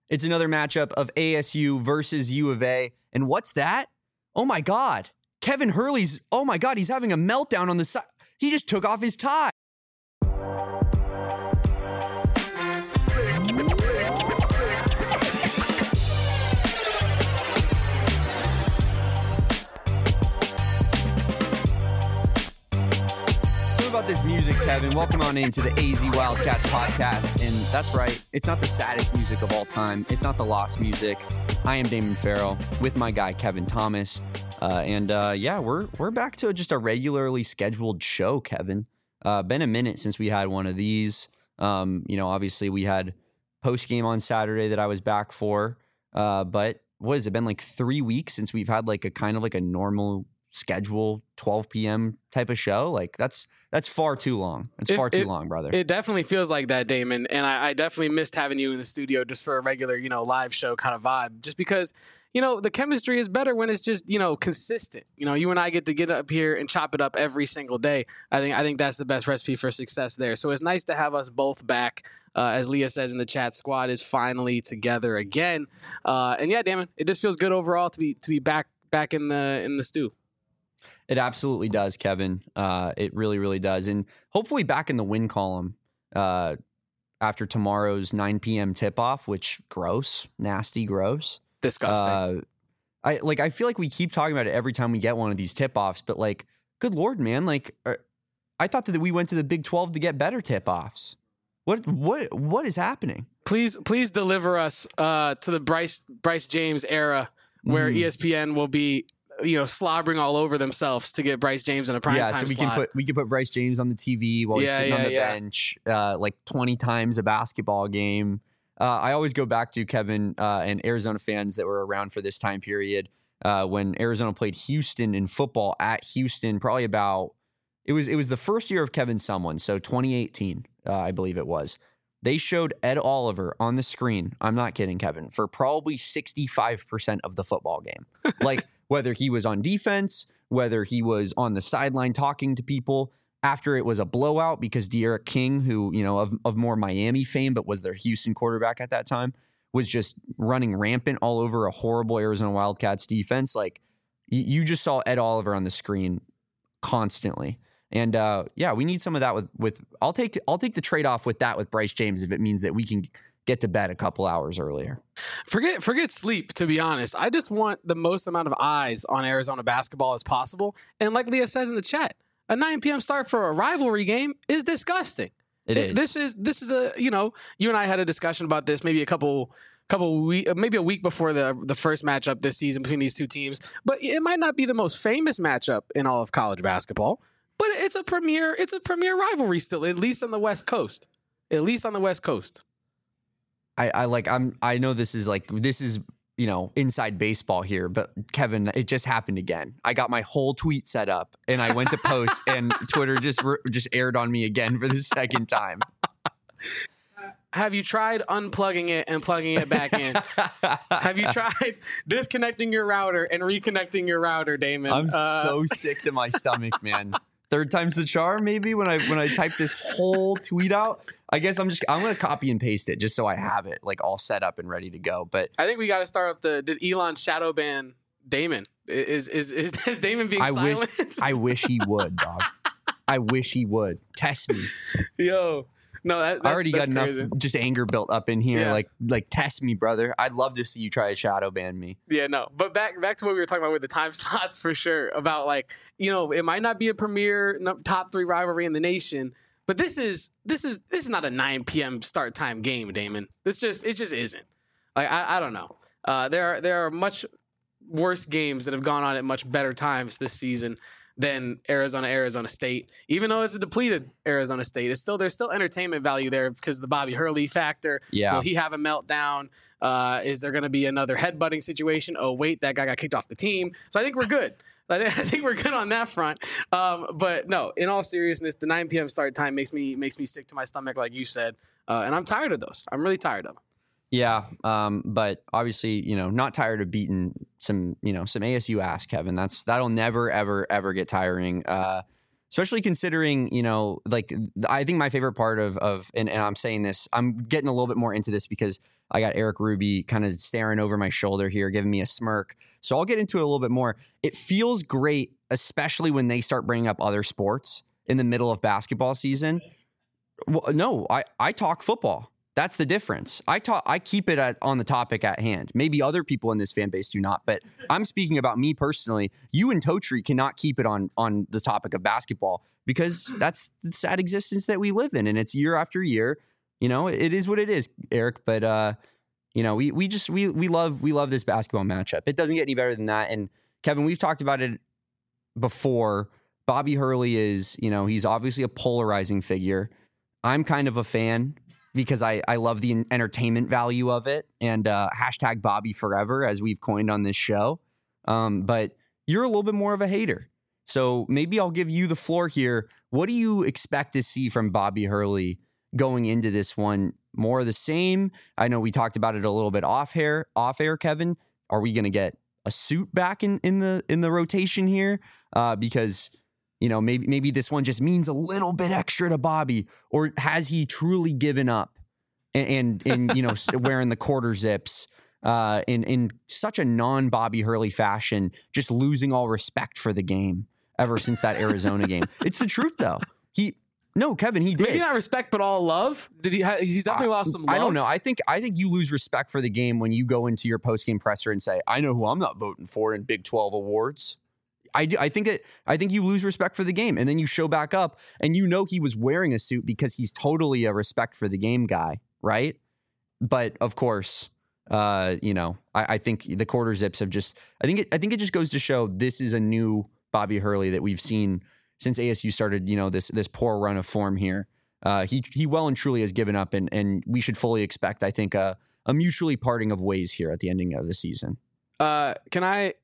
It's another matchup of ASU versus U of A. And what's that? Oh my God. Kevin Hurley's, oh my God, he's having a meltdown on the side. He just took off his tie. About this music, Kevin. Welcome on into the AZ Wildcats podcast. And that's right, it's not the saddest music of all time. It's not the lost music. I am Damon Farrell with my guy Kevin Thomas. We're back to just a regularly scheduled show, Kevin. Been a minute since we had one of these. Obviously we had post game on Saturday that I was back for. But what has it been, like 3 weeks since we've had like a kind of like a normal schedule 12 p.m. type of show? Like that's far too long. It's far too long, brother. It definitely feels like that, Damon. And I definitely missed having you in the studio just for a regular, live show kind of vibe. Just because, the chemistry is better when it's just, consistent. You and I get to get up here and chop it up every single day. I think that's the best recipe for success there. So it's nice to have us both back. As Leah says in the chat, squad is finally together again. Damon, it just feels good overall to be back in the stew. It absolutely does, Kevin. It really, really does. And hopefully back in the win column after tomorrow's 9 p.m. tip-off, which nasty, gross. Disgusting. I feel like we keep talking about it every time we get one of these tip-offs, but like, good Lord, man. Like, I thought that we went to the Big 12 to get better tip-offs. What is happening? Please deliver us to the Bryce James era where ESPN will be slobbering all over themselves to get Bryce James in a prime time slot. we can put Bryce James on the TV while he's sitting on the bench, like 20 times a basketball game. I always go back to Kevin and Arizona fans that were around for this time period when Arizona played Houston in football at Houston. Probably it was the first year of Kevin Sumlin, so 2018, I believe it was. They showed Ed Oliver on the screen. I'm not kidding, Kevin, for probably 65% of the football game. Like, whether he was on defense, whether he was on the sideline talking to people after it was a blowout because De'Aaron King, who, of more Miami fame, but was their Houston quarterback at that time, was just running rampant all over a horrible Arizona Wildcats defense. Like, you just saw Ed Oliver on the screen constantly. And we need some of that with I'll take the trade-off with that with Bryce James if it means that we can get to bed a couple hours earlier. Forget sleep, to be honest. I just want the most amount of eyes on Arizona basketball as possible. And like Leah says in the chat, a 9 p.m. start for a rivalry game is disgusting. It is. This is a, you and I had a discussion about this maybe maybe a week before the first matchup this season between these two teams. But it might not be the most famous matchup in all of college basketball. But it's a premier rivalry still, at least on the West Coast. I know this is inside baseball here, but Kevin, it just happened again. I got my whole tweet set up and I went to post and Twitter just aired on me again for the second time. Have you tried unplugging it and plugging it back in? Have you tried disconnecting your router and reconnecting your router, Damon? I'm so sick to my stomach, man. Third time's the charm, maybe, when I type this whole tweet out. I guess I'm going to copy and paste it just so I have it like all set up and ready to go. But I think we got to start up did Elon shadow ban Damon? Is Damon being silenced? I wish he would, dog. I wish he would. Test me. Yo. No, I already got crazy. enough just anger built up in here. Yeah. Like test me, brother. I'd love to see you try to shadow ban me. Yeah, no. But back to what we were talking about with the time slots for sure. About it might not be a premier top 3 rivalry in the nation, but this is not a 9 p.m. start time game, Damon. It just isn't. Like I don't know. There are much worse games that have gone on at much better times this season than Arizona State. Even though it's a depleted Arizona State, there's still entertainment value there because of the Bobby Hurley factor. Yeah. Will he have a meltdown? Is there going to be another headbutting situation? Oh, wait, that guy got kicked off the team. So I think we're good. I think we're good on that front. But no, in all seriousness, the 9 p.m. start time makes me sick to my stomach, like you said. And I'm tired of those. I'm really tired of them. Yeah, but obviously, not tired of beating some ASU ass, Kevin. That'll never, ever, ever get tiring. especially considering, like I think my favorite part of and I'm saying this, I'm getting a little bit more into this because I got Eric Ruby kind of staring over my shoulder here, giving me a smirk. So I'll get into it a little bit more. It feels great, especially when they start bringing up other sports in the middle of basketball season. Well, no, I talk football. That's the difference. I keep it on the topic at hand. Maybe other people in this fan base do not, but I'm speaking about me personally. You and Totri cannot keep it on the topic of basketball because that's the sad existence that we live in, and it's year after year. It is what it is, Eric. But we love this basketball matchup. It doesn't get any better than that. And Kevin, we've talked about it before. Bobby Hurley is, he's obviously a polarizing figure. I'm kind of a fan, because I love the entertainment value of it, and hashtag Bobby forever, as we've coined on this show. But you're a little bit more of a hater. So maybe I'll give you the floor here. What do you expect to see from Bobby Hurley going into this one? More of the same? I know we talked about it a little bit off air, Kevin. Are we going to get a suit back in the rotation here? Because maybe this one just means a little bit extra to Bobby, or has he truly given up and wearing the quarter zips in such a non-Bobby Hurley fashion, just losing all respect for the game ever since that Arizona game? It's the truth, though. Kevin, he did. Maybe not respect, but all love. Did he? He's definitely lost some love. I don't know. I think you lose respect for the game when you go into your post-game presser and say, "I know who I'm not voting for in Big 12 awards." I think you lose respect for the game, and then you show back up and he was wearing a suit because he's totally a respect for the game guy, right? But of course, I think the quarter zips have just I think it just goes to show this is a new Bobby Hurley that we've seen since ASU started, this poor run of form here. He well and truly has given up, and we should fully expect, I think, a mutually parting of ways here at the ending of the season. Can I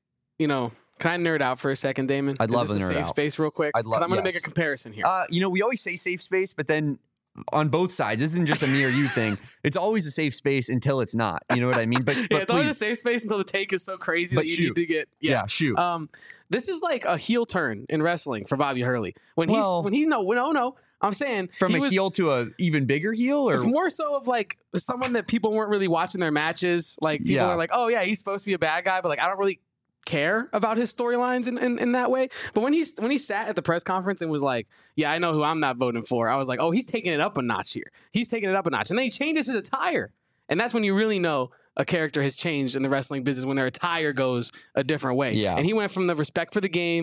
nerd out for a second, Damon? I'd love to nerd out. Safe space real quick? I'm going to make a comparison here. We always say safe space, but then on both sides, this isn't just a me or you thing. It's always a safe space until it's not. You know what I mean? But it's always a safe space until the take is so crazy that you need to get. Yeah, shoot. This is like a heel turn in wrestling for Bobby Hurley. I'm saying from a heel to a even bigger heel, or it's more so of like someone that people weren't really watching their matches. Like people are like, oh yeah, he's supposed to be a bad guy, but like I don't really care about his storylines in that way. But when he sat at the press conference and was like, yeah, I know who I'm not voting for, I was like, oh, he's taking it up a notch here. He's taking it up a notch. And then he changes his attire. And that's when you really know a character has changed in the wrestling business, when their attire goes a different way. Yeah. And he went from the respect for the game,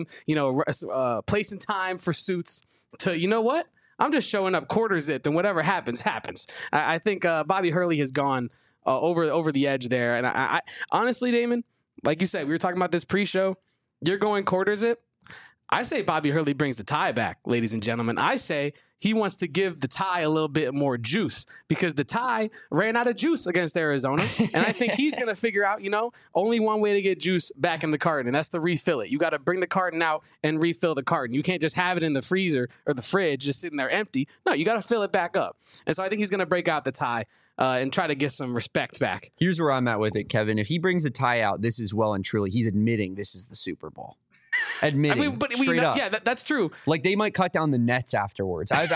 place and time for suits, to, you know what? I'm just showing up quarter zipped, and whatever happens. I think Bobby Hurley has gone over the edge there. And I honestly, Damon, like you said, we were talking about this pre-show. You're going quarter zip. I say Bobby Hurley brings the tie back, ladies and gentlemen. I say he wants to give the tie a little bit more juice, because the tie ran out of juice against Arizona. And I think he's going to figure out, only one way to get juice back in the carton, and that's to refill it. You got to bring the carton out and refill the carton. You can't just have it in the freezer or the fridge just sitting there empty. No, you got to fill it back up. And so I think he's going to break out the tie and try to get some respect back. Here's where I'm at with it, Kevin. If he brings the tie out, this is well and truly, he's admitting this is the Super Bowl. Straight up. Yeah, that's true. Like, they might cut down the nets afterwards. I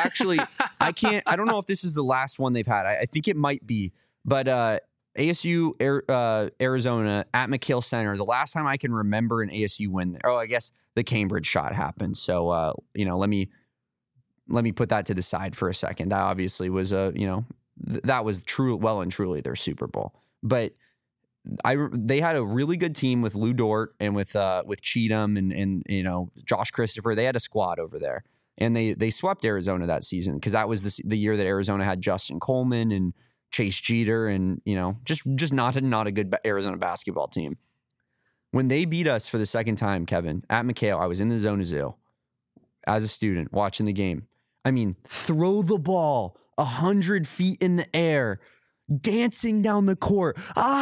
don't know if this is the last one they've had. I think it might be. But ASU, Arizona at McKale Center, the last time I can remember an ASU win there. Oh, I guess the Cambridge shot happened. So, let me put that to the side for a second. That obviously was that was well and truly their Super Bowl. But they had a really good team with Lou Dort and with Cheatham and Josh Christopher. They had a squad over there, and they swept Arizona that season, because that was the year that Arizona had Justin Coleman and Chase Jeter, and just not a good Arizona basketball team. When they beat us for the second time, Kevin, at McKale, I was in the Zona Zoo as a student watching the game. I mean, throw the ball 100 feet in the air, dancing down the court.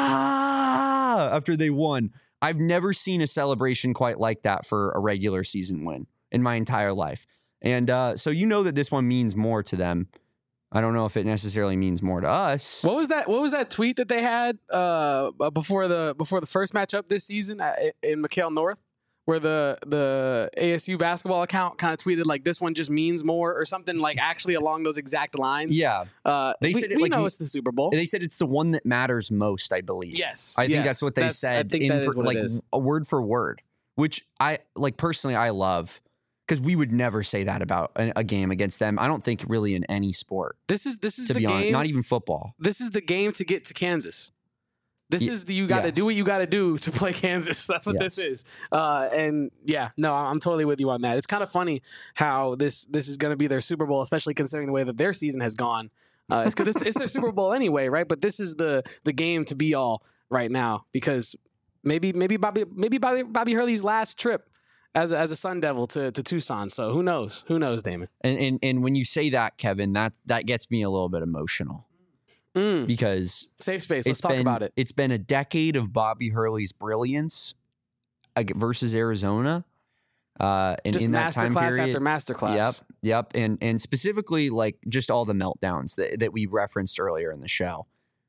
After they won. I've never seen a celebration quite like that for a regular season win in my entire life. And so that this one means more to them. I don't know if it necessarily means more to us. What was that tweet that they had before the first matchup this season in McKale North, where the ASU basketball account kind of tweeted like this one just means more or something like actually along those exact lines. Yeah. They said we know it's the Super Bowl. They said it's the one that matters most, I believe. Yes. I think that's what they said. I think that is what it is. A word for word, which I like personally I love because we would never say that about a game against them. I don't think really in any sport. This is to the be game. Honest, not even football. This is the game to get to Kansas. This is you got to do what you got to do to play Kansas. That's what this is. And yeah, no, I'm totally with you on that. It's kind of funny how this is going to be their Super Bowl, especially considering the way that their season has gone. It's their Super Bowl anyway, right? But this is the game to be all right now because maybe Bobby Hurley's last trip as a Sun Devil to Tucson. So who knows? Who knows, Damon? And when you say that, Kevin, that gets me a little bit emotional. Because safe space. Let's talk about it. It's been a decade of Bobby Hurley's brilliance versus Arizona. And just in that time masterclass period, after masterclass. Yep. And specifically, like just all the meltdowns that we referenced earlier in the show.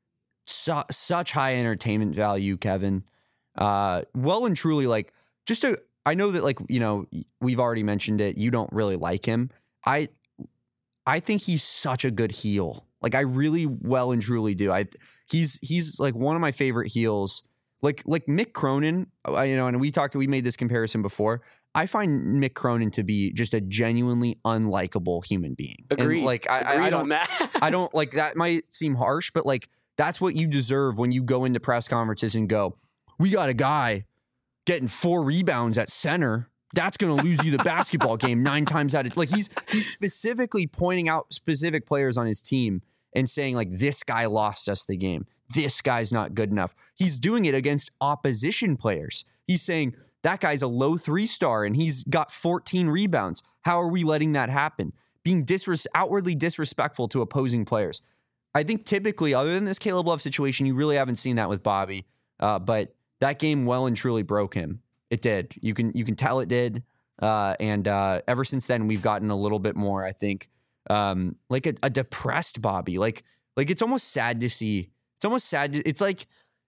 Such high entertainment value, Kevin. Well and truly, like I know that, like, you know, we've already mentioned it. You don't really like him. I think he's such a good heel. Like I really well and truly do. He's like one of my favorite heels. Like Mick Cronin, you know, and we made this comparison before. I find Mick Cronin to be just a genuinely unlikable human being. Agreed. And like I don't on that. I don't like that might seem harsh, but like that's what you deserve when you go into press conferences and go, "We got a guy getting 4 rebounds at center. That's going to lose you the basketball game 9 times out of..." Like he's specifically pointing out specific players on his team and saying like, this guy lost us the game. This guy's not good enough. He's doing it against opposition players. He's saying that guy's a low 3-star and he's got 14 rebounds. How are we letting that happen? Being outwardly disrespectful to opposing players. I think typically, other than this Caleb Love situation, you really haven't seen that with Bobby. But that game well and truly broke him. It did. You can tell it did. And ever since then, we've gotten a little bit more, I think, like a depressed Bobby. Like it's almost sad to see. It's almost sad. It's like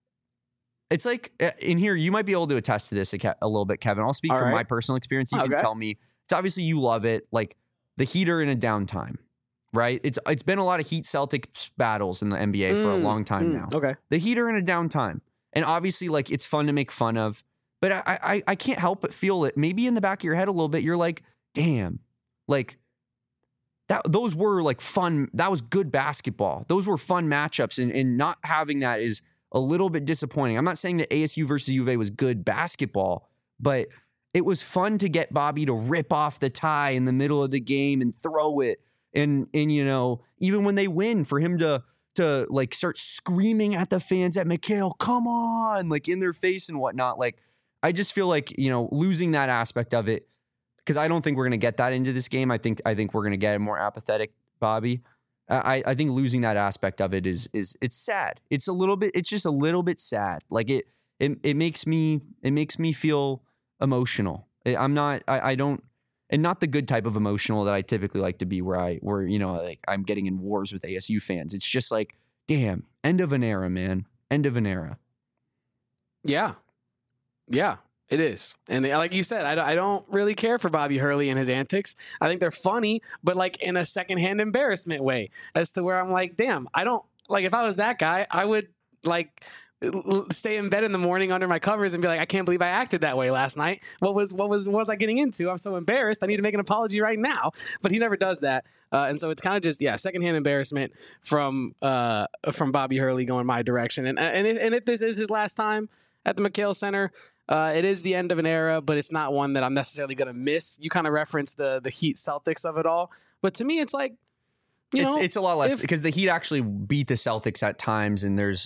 in here, you might be able to attest to this a little bit, Kevin. I'll speak from my personal experience. You can tell me. It's obviously you love it. Like the Heat are in a downtime, right? It's been a lot of Heat Celtics battles in the NBA for a long time now. Okay. The Heat are in a downtime. And obviously, like, it's fun to make fun of. But I can't help but feel it. Maybe in the back of your head a little bit, you're like, damn, like those were like fun. That was good basketball. Those were fun matchups. And not having that is a little bit disappointing. I'm not saying that ASU versus U of A was good basketball, but it was fun to get Bobby to rip off the tie in the middle of the game and throw it. And you know, even when they win, for him to like start screaming at the fans at McHale, come on, like in their face and whatnot. Like, I just feel like, you know, losing that aspect of it, because I don't think we're going to get that into this game. I think we're going to get a more apathetic Bobby. I think losing that aspect of it is it's sad. It's just a little bit sad. Like it makes me feel emotional. I don't, and not the good type of emotional that I typically like to be, where you know, like I'm getting in wars with ASU fans. It's just like, damn, end of an era, man. End of an era. Yeah. Yeah, it is. And like you said, I don't really care for Bobby Hurley and his antics. I think they're funny, but like in a secondhand embarrassment way, as to where I'm like, damn, I don't, like, if I was that guy, I would like stay in bed in the morning under my covers and be like, I can't believe I acted that way last night. What was I getting into? I'm so embarrassed. I need to make an apology right now. But he never does that. And so it's kind of just, secondhand embarrassment from Bobby Hurley going my direction. And if this is his last time at the McHale Center, it is the end of an era, but it's not one that I'm necessarily going to miss. You kind of referenced the Heat Celtics of it all. But to me, it's like, it's a lot less because the Heat actually beat the Celtics at times, and there's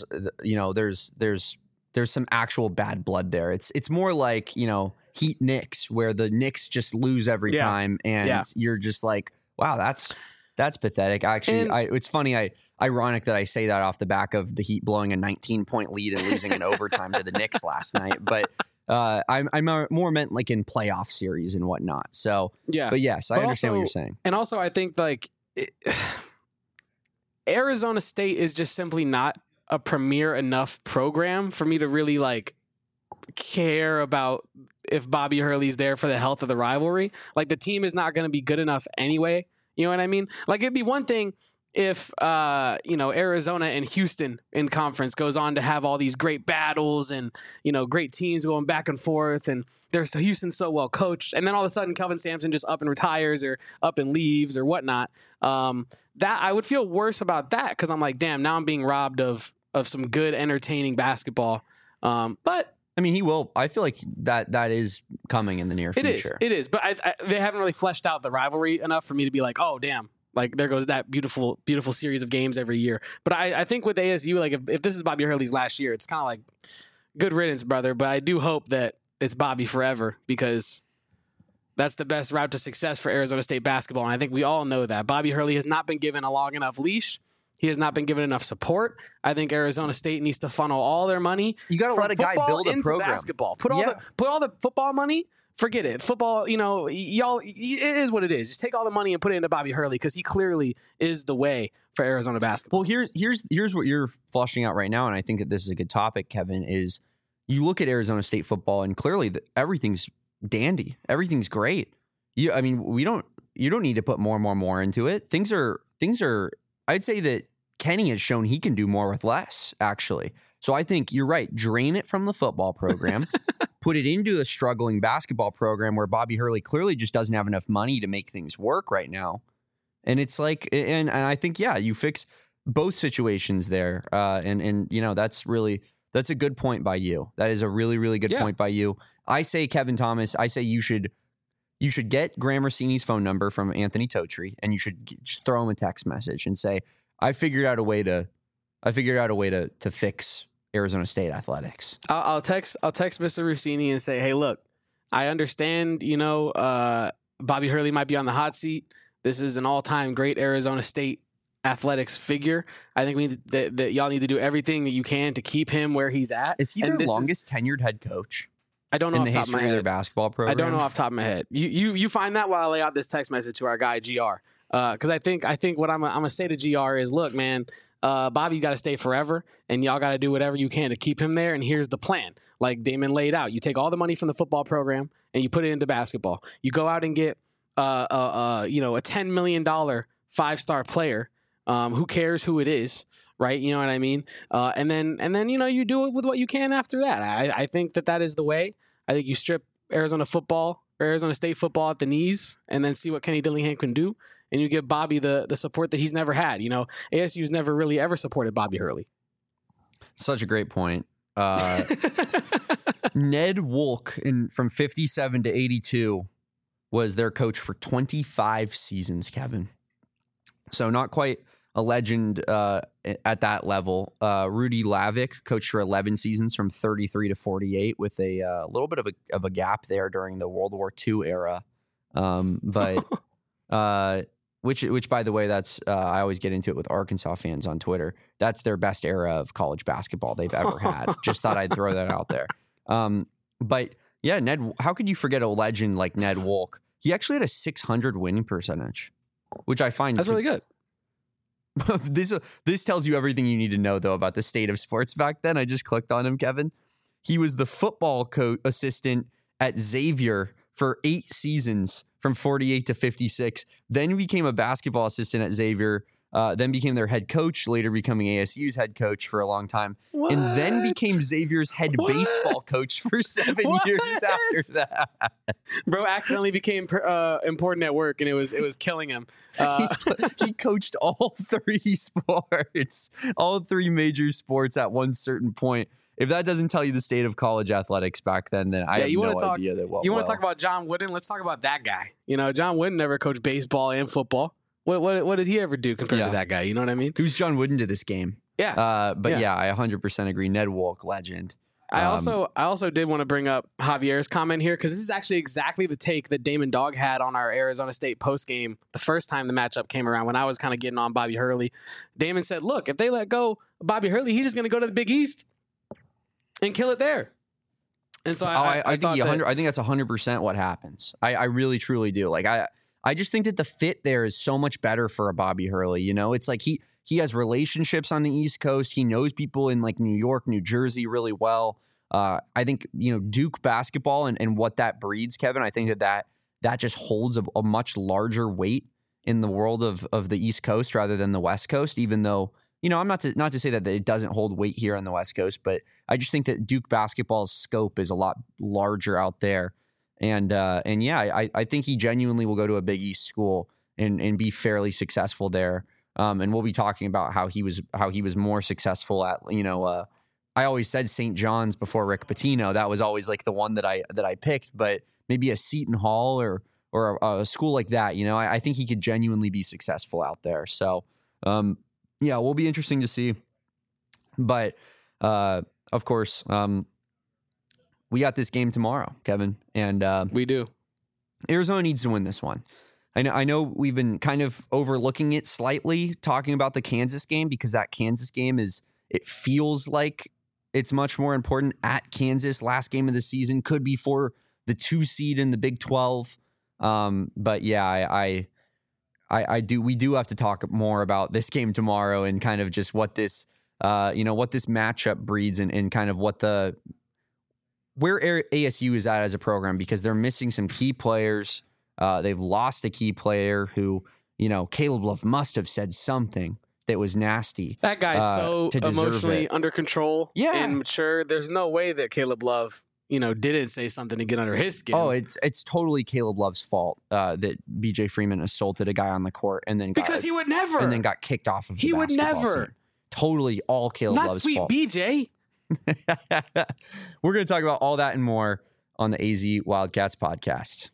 some actual bad blood there. It's more like, you know, Heat Knicks, where the Knicks just lose every time, and you're just like, wow, that's pathetic. Actually, it's funny. Ironic that I say that off the back of the Heat blowing a 19-point lead and losing in overtime to the Knicks last night, but I more meant like in playoff series and whatnot. So but yes, I understand what you're saying. And also, I think like Arizona State is just simply not a premier enough program for me to really like care about if Bobby Hurley's there for the health of the rivalry. Like, the team is not going to be good enough anyway. You know what I mean? Like, it'd be one thing if, Arizona and Houston in conference goes on to have all these great battles and, great teams going back and forth, and there's Houston's so well coached, and then all of a sudden Kelvin Sampson just up and retires or up and leaves or whatnot. That I would feel worse about that, because I'm like, damn, now I'm being robbed of some good, entertaining basketball. But I mean, he will. I feel like that is coming in the near future. It is. But they haven't really fleshed out the rivalry enough for me to be like, oh, damn. Like, there goes that beautiful, beautiful series of games every year. But I think with ASU, like, if this is Bobby Hurley's last year, it's kind of like, good riddance, brother. But I do hope that it's Bobby forever, because that's the best route to success for Arizona State basketball. And I think we all know that. Bobby Hurley has not been given a long enough leash. He has not been given enough support. I think Arizona State needs to funnel all their money. You got to let a guy build a program. Basketball. Put all the football money. Forget it. Football, y'all, it is what it is. Just take all the money and put it into Bobby Hurley, because he clearly is the way for Arizona basketball. Well, here's what you're fleshing out right now, and I think that this is a good topic, Kevin, is you look at Arizona State football, and clearly everything's dandy. Everything's great. You don't need to put more into it. Things are, I'd say that Kenny has shown he can do more with less, actually. So I think you're right. Drain it from the football program, put it into a struggling basketball program where Bobby Hurley clearly just doesn't have enough money to make things work right now. And it's like, and I think, yeah, you fix both situations there. And that's a good point by you. That is a really, really good point by you. I say, Kevin Thomas, you should get Graham Rossini's phone number from Anthony Totri, and you should just throw him a text message and say, I figured out a way to fix Arizona State athletics. I'll text Mr. Rossini and say, hey, look, I understand, Bobby Hurley might be on the hot seat. This is an all-time great Arizona State athletics figure. I think that y'all need to do everything that you can to keep him where he's at. Is he their longest tenured head coach? I don't know in the history of their basketball program. I don't know off the top of my head. You find that while I lay out this text message to our guy GR. Because I think what I'm gonna say to GR is, look, man, Bobby's got to stay forever, and y'all got to do whatever you can to keep him there. And here's the plan, like Damon laid out. You take all the money from the football program and you put it into basketball. You go out and get a $10 million 5-star player. Who cares who it is, right? You know what I mean? And then you do it with what you can after that. I think that is the way. I think you strip Arizona State football at the knees, and then see what Kenny Dillingham can do, and you give Bobby the support that he's never had. ASU's never really ever supported Bobby Hurley. Such a great point. Ned Wolk from 57 to 82 was their coach for 25 seasons, Kevin. So not quite a legend at that level. Rudy Lavick coached for 11 seasons from 33 to 48 with a little bit of a gap there during the World War II era. Which by the way, that's I always get into it with Arkansas fans on Twitter. That's their best era of college basketball they've ever had. Just thought I'd throw that out there. But yeah, Ned, how could you forget a legend like Ned Wolk? He actually had a 600 winning percentage, which I find that's really good. This tells you everything you need to know, though, about the state of sports back then. I just clicked on him, Kevin. He was the football assistant at Xavier for 8 seasons from 48 to 56. Then he became a basketball assistant at Xavier, then became their head coach, later becoming ASU's head coach for a long time, and then became Xavier's head baseball coach for 7 years after that. Bro accidentally became important at work, and it was killing him. He coached all 3 sports, all 3 major sports at one certain point. If that doesn't tell you the state of college athletics back then I have no idea that well. You want to talk about John Wooden? Let's talk about that guy. John Wooden never coached baseball and football. What did he ever do compared to that guy? You know what I mean? Who's John Wooden to this game? Yeah. I 100% agree. Ned Wolk, legend. I also did want to bring up Javier's comment here, because this is actually exactly the take that Damon Dog had on our Arizona State postgame the first time the matchup came around, when I was kind of getting on Bobby Hurley. Damon said, look, if they let go of Bobby Hurley, he's just going to go to the Big East and kill it there. And so I think that's 100% what happens. I really, truly do. Like, I just think that the fit there is so much better for a Bobby Hurley. It's like he has relationships on the East Coast. He knows people in like New York, New Jersey really well. I think, Duke basketball and what that breeds, Kevin, I think that just holds a much larger weight in the world of the East Coast rather than the West Coast, even though, I'm not to say that it doesn't hold weight here on the West Coast, but I just think that Duke basketball's scope is a lot larger out there. And yeah, I think he genuinely will go to a Big East school and be fairly successful there. And we'll be talking about how he was more successful at, I always said St. John's before Rick Pitino. That was always like the one that I picked, but maybe a Seton Hall or a school like that, I think he could genuinely be successful out there. So, yeah, will be interesting to see. But, of course, we got this game tomorrow, Kevin, and we do. Arizona needs to win this one. I know we've been kind of overlooking it slightly, talking about the Kansas game, because that Kansas game it feels like it's much more important at Kansas. Last game of the season could be for the 2 seed in the Big 12. But yeah, we do have to talk more about this game tomorrow and kind of just what this, what this matchup breeds and kind of where ASU is at as a program, because they're missing some key players. They've lost a key player who, Caleb Love must have said something that was nasty. That guy's so emotionally under control and mature. There's no way that Caleb Love, didn't say something to get under his skin. Oh, it's totally Caleb Love's fault that BJ Freeman assaulted a guy on the court and then he would never, and then got kicked off of the basketball team. Totally all Caleb Love's fault. Not sweet BJ. We're going to talk about all that and more on the AZ Wildcats podcast.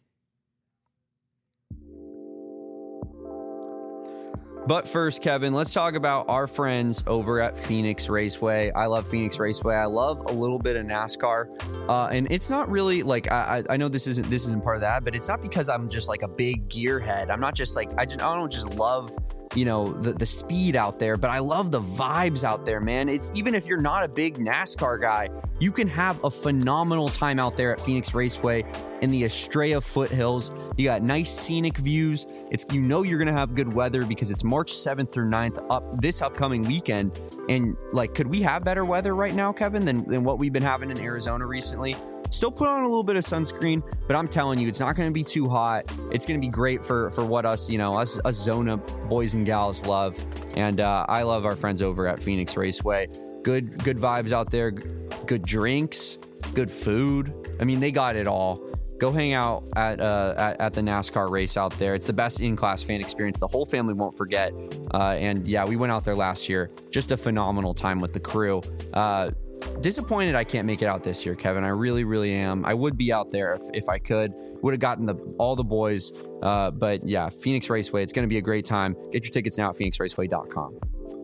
But first, Kevin, let's talk about our friends over at Phoenix Raceway. I love Phoenix Raceway. I love a little bit of NASCAR. And it's not really like, I know this isn't part of that, but it's not because I'm just like a big gearhead. I'm not just like, I don't just love, the speed out there, but I love the vibes out there, man. It's even if you're not a big NASCAR guy, you can have a phenomenal time out there at Phoenix Raceway in the Estrella foothills. You got nice scenic views. You're going to have good weather because it's March 7th through 9th this upcoming weekend. And like, could we have better weather right now, Kevin, than what we've been having in Arizona recently? Still put on a little bit of sunscreen, but I'm telling you, it's not going to be too hot. It's going to be great for what us Zona boys and gals love. And I love our friends over at Phoenix Raceway. Good vibes out there, good drinks, good food. I mean, they got it all. Go hang out at the NASCAR race out there. It's the best in-class fan experience the whole family won't forget. And yeah, we went out there last year. Just a phenomenal time with the crew. Disappointed I can't make it out this year, Kevin. I really, really am. I would be out there if I could. Would have gotten all the boys. But yeah, Phoenix Raceway. It's going to be a great time. Get your tickets now at phoenixraceway.com.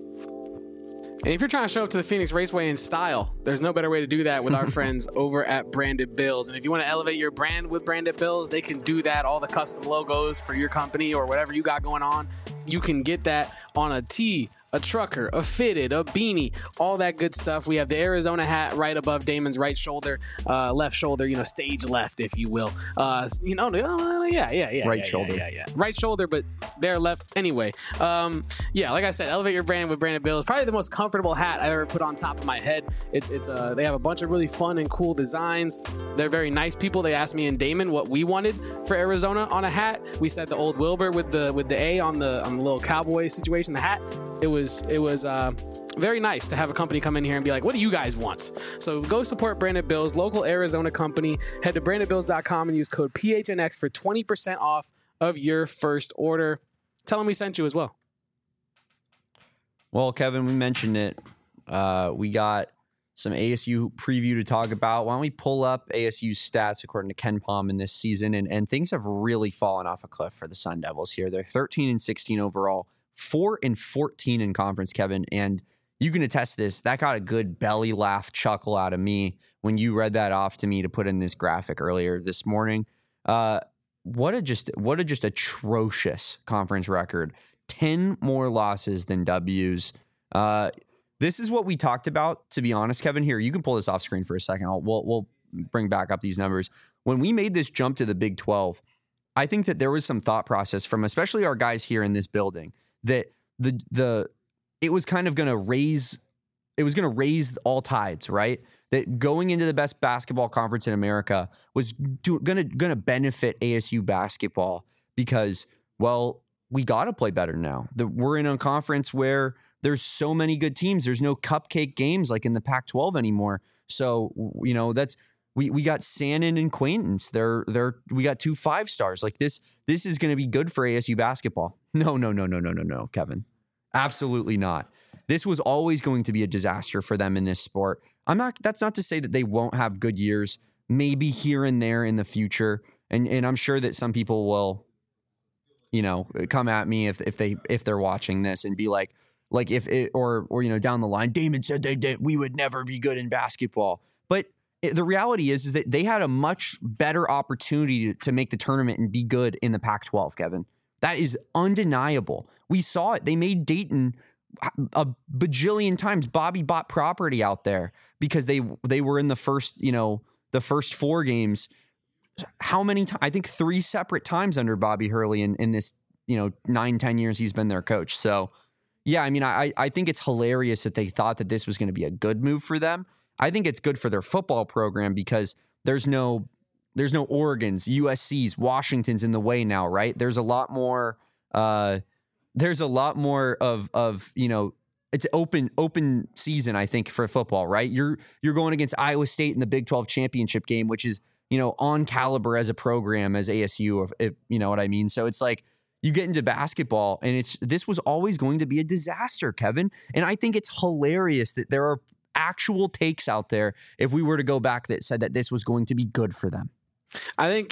And if you're trying to show up to the Phoenix Raceway in style, there's no better way to do that with our friends over at Branded Bills. And if you want to elevate your brand with Branded Bills, they can do that. All the custom logos for your company or whatever you got going on, you can get that on a tee, a trucker, a fitted, a beanie, all that good stuff. We have the Arizona hat right above Damon's right shoulder, left shoulder, stage left, if you will. Right shoulder. Yeah. Right shoulder, but they're left anyway. Like I said, elevate your brand with Branded Bills. Probably the most comfortable hat I've ever put on top of my head. They have a bunch of really fun and cool designs. They're very nice people. They asked me and Damon what we wanted for Arizona on a hat. We said the old Wilbur with the A on the little cowboy situation, the hat. It was very nice to have a company come in here and be like, what do you guys want? So go support Branded Bills, local Arizona company. Head to brandedbills.com and use code PHNX for 20% off of your first order. Tell them we sent you as well. Well, Kevin, we mentioned it. We got some ASU preview to talk about. Why don't we pull up ASU's stats according to Ken Pom in this season? And things have really fallen off a cliff for the Sun Devils here. They're 13-16 overall. 4-14 in conference, Kevin, and you can attest to this. That got a good belly laugh chuckle out of me when you read that off to me to put in this graphic earlier this morning. What a just atrocious conference record. 10 more losses than W's. This is what we talked about, to be honest, Kevin. Here, you can pull this off screen for a second. We'll bring back up these numbers. When we made this jump to the Big 12, I think that there was some thought process from especially our guys here in this building that it was kind of going to raise raise all tides, right? That going into the best basketball conference in America was gonna benefit ASU basketball because, well, we got to play better now. We're in a conference where there's so many good teams. There's no cupcake games like in the Pac-12 anymore. So, that's we got Shannon and Quaintance. We got 2 5-stars. Like this is going to be good for ASU basketball. No, Kevin. Absolutely not. This was always going to be a disaster for them in this sport. That's not to say that they won't have good years, maybe here and there in the future. And I'm sure that some people will, come at me if they're watching this and be like if it, or down the line, Damon said we would never be good in basketball. But the reality is that they had a much better opportunity to make the tournament and be good in the Pac-12, Kevin. That is undeniable. We saw it. They made Dayton a bajillion times. Bobby bought property out there because they were in the first 4 games. How many times? I think 3 separate times under Bobby Hurley in this 9-10 years he's been their coach. So yeah, I mean, I think it's hilarious that they thought that this was going to be a good move for them. I think it's good for their football program because there's no Oregons, USCs, Washingtons in the way now, right? There's a lot more of it's open season, I think, for football, right? You're going against Iowa State in the Big 12 championship game, which is, on caliber as a program as ASU, if you know what I mean? So it's like you get into basketball and this was always going to be a disaster, Kevin. And I think it's hilarious that there are actual takes out there, if we were to go back, that said that this was going to be good for them. I think,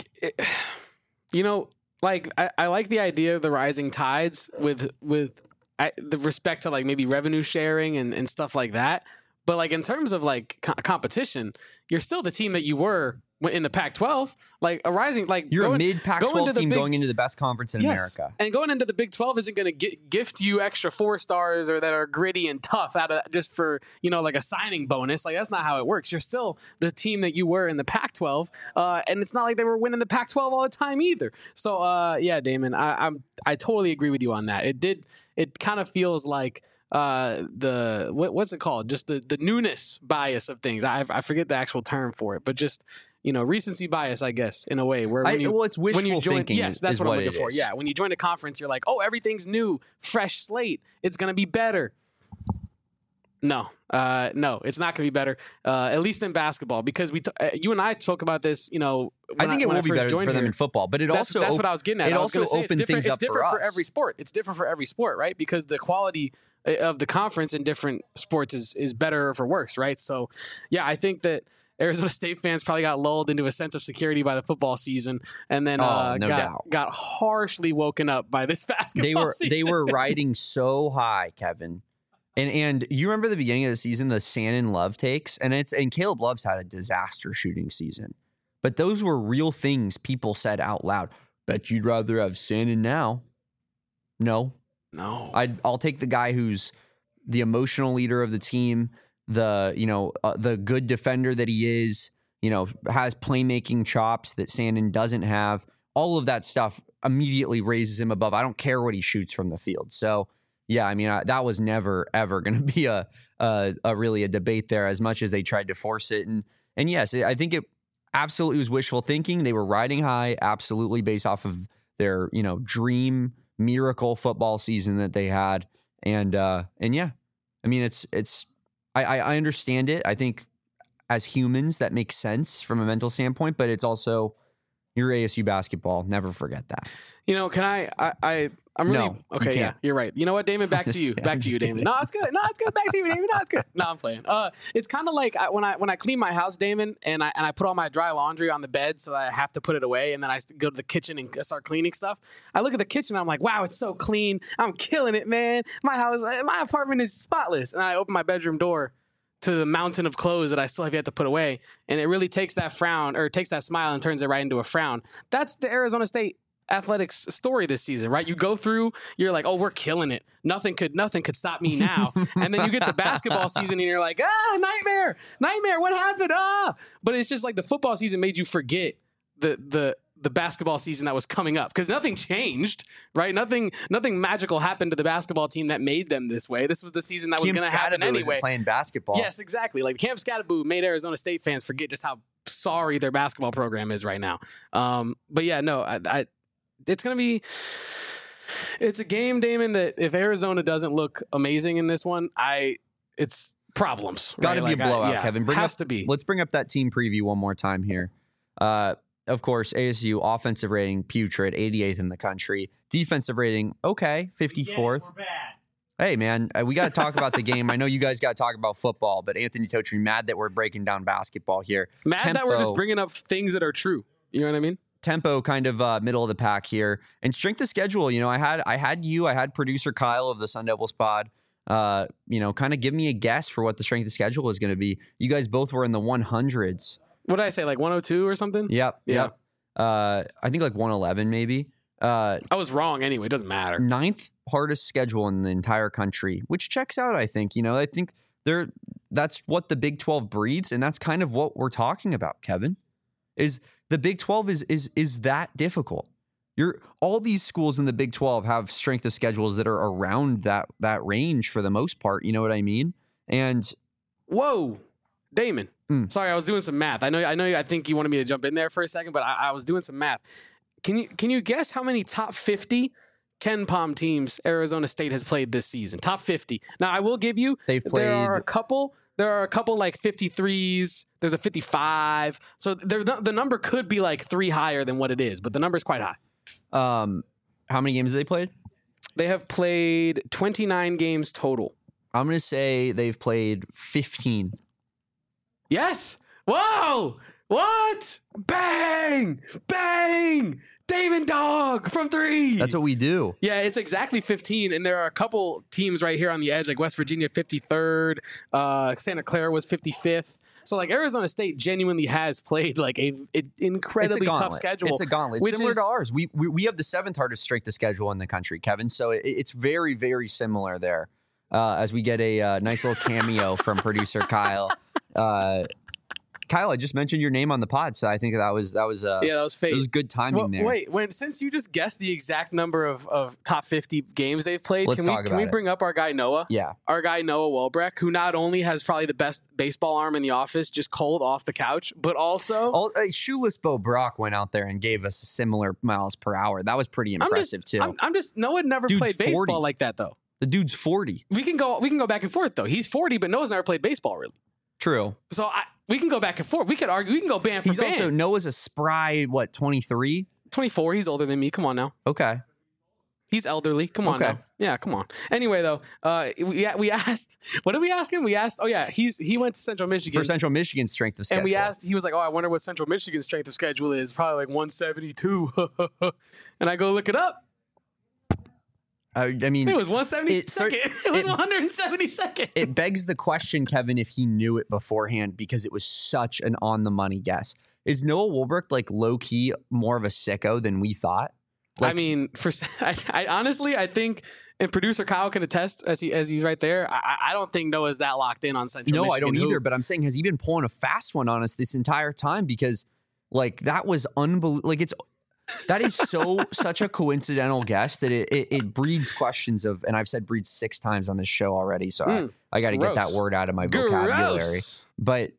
I like the idea of the rising tides with the respect to like maybe revenue sharing and stuff like that. But like in terms of like competition, you're still the team that you were in the Pac-12, like a rising, like you're a mid Pac-12 team going into the best conference in America. And going into the Big 12 isn't going to gift you extra 4 stars or that are gritty and tough out of just for, like a signing bonus. Like that's not how it works. You're still the team that you were in the Pac-12. And it's not like they were winning the Pac-12 all the time either. So yeah, Damon, I totally agree with you on that. It kind of feels like what's it called? Just the newness bias of things. I forget the actual term for it, but just, recency bias, I guess, in a way where it's wishful thinking. Yes, that's what I'm looking for. Is. Yeah. When you join a conference, you're like, oh, everything's new, fresh slate. It's going to be better. No, it's not going to be better. At least in basketball, because you and I spoke about this, I think it will be better for them in football, but that's what I was getting at. It also opened things up for us. For every sport. It's different for every sport, right? Because the quality of the conference in different sports is better or for worse, right? So, yeah, I think that Arizona State fans probably got lulled into a sense of security by the football season, and then got harshly woken up by this basketball season. They were riding so high, Kevin. And you remember the beginning of the season, the Shannon Love takes, and Caleb Love's had a disaster shooting season. But those were real things people said out loud. Bet you'd rather have Shannon now. No. I'll take the guy who's the emotional leader of the team, the good defender that he is, has playmaking chops that Shannon doesn't have. All of that stuff immediately raises him above. I don't care what he shoots from the field. So, yeah, I mean, that was never, ever going to be a really a debate there, as much as they tried to force it. And yes, I think it absolutely was wishful thinking. They were riding high, absolutely, based off of their, dream miracle football season that they had. And yeah, I mean, I understand it. I think as humans, that makes sense from a mental standpoint, but it's also your ASU basketball. Never forget that. Can I'm really okay. Yeah, you're right. You know what, Damon? Back to you. Back to you, Damon. No, it's good. Back to you, Damon. No, it's good. No, I'm playing. It's kind of like when I clean my house, Damon, and I put all my dry laundry on the bed, so I have to put it away, and then I go to the kitchen and start cleaning stuff. I look at the kitchen, and I'm like, wow, it's so clean. I'm killing it, man. My apartment is spotless, and I open my bedroom door to the mountain of clothes that I still have yet to put away, and it really takes that smile and turns it right into a frown. That's the Arizona State athletics story this season, right? You go through, you're like, oh, we're killing it. Nothing could stop me now. And then you get to basketball season and you're like, nightmare, what happened? But it's just like the football season made you forget the the basketball season that was coming up, because nothing changed, right? Nothing magical happened to the basketball team that made them this way. This was the season that was going to happen anyway. Playing basketball. Yes, exactly. Like Cam Skattebo made Arizona State fans forget just how sorry their basketball program is right now. But yeah, no, it's going to be. It's a game, Damon, that if Arizona doesn't look amazing in this one, it's problems. Got to be a blowout, Kevin. To be. Let's bring up that team preview one more time here. Of course, ASU offensive rating putrid, 88th in the country. Defensive rating, okay, 54th. We're bad. Hey, man, we got to talk about the game. I know you guys got to talk about football, but Anthony Totri, mad that we're breaking down basketball here. Mad that we're just bringing up things that are true. You know what I mean? Tempo kind of middle of the pack here. And strength of schedule, I had producer Kyle of the Sun Devils pod, kind of give me a guess for what the strength of schedule is going to be. You guys both were in the 100s. What did I say, like 102 or something? Yep. I think like 111 maybe. I was wrong anyway. It doesn't matter. 9th hardest schedule in the entire country, which checks out, I think. I think that's what the Big 12 breeds, and that's kind of what we're talking about, Kevin. Is the Big 12 is that difficult. All these schools in the Big 12 have strength of schedules that are around that range for the most part. You know what I mean? And whoa, Damon. Sorry, I was doing some math. I know. I think you wanted me to jump in there for a second, but I was doing some math. Can you guess how many top 50 Ken Pom teams Arizona State has played this season? Top 50. Now, I will give you. There are a couple like 53s. There's a 55. So the number could be like 3 higher than what it is, but the number is quite high. How many games have they played? They have played 29 games total. I'm going to say they've played 15. Yes. Whoa. What? Bang. Bang. Damon Dog from 3. That's what we do. Yeah, it's exactly 15. And there are a couple teams right here on the edge, like West Virginia, 53rd. Santa Clara was 55th. So, like, Arizona State genuinely has played, like, an incredibly tough schedule. It's a gauntlet. Similar to ours. We have the 7th hardest strength of schedule in the country, Kevin. So, it's very, very similar there. As we get a nice little cameo from producer Kyle. Kyle, I just mentioned your name on the pod, so I think that was fate. It was good timing there. Wait, since you just guessed the exact number of top 50 games they've played, can we bring up our guy Noah? Yeah. Our guy Noah Welbrecht, who not only has probably the best baseball arm in the office, just cold off the couch, but also Shoeless Bo Brock went out there and gave us a similar miles per hour. That was pretty impressive too. Noah never played baseball 40. like that though. The dude's 40. We can go back and forth though. He's 40, but Noah's never played baseball really. True. So we can go back and forth. We could argue. We can go band for band. Also, Noah's a spry, 23? 24. He's older than me. Come on now. Okay. He's elderly. Come on now. Yeah, come on. Anyway, though, we asked, what did we ask him? We asked, he went to Central Michigan. For Central Michigan's strength of schedule. And we asked, he was like, I wonder what Central Michigan's strength of schedule is. Probably like 172. And I go look it up. I mean, it was 172nd. It was 172nd. It begs the question, Kevin, if he knew it beforehand because it was such an on-the-money guess. Is Noah Welbrecht like low-key more of a sicko than we thought? I mean, I honestly, I think, and producer Kyle can attest as he's right there. I don't think Noah's that locked in on Central Michigan. No, I don't either. But I'm saying, has he been pulling a fast one on us this entire time? Because like that was unbelievable. Like that is such a coincidental guess that it breeds questions of, and I've said breeds 6 times on this show already, so I got to get that word out of my vocabulary. But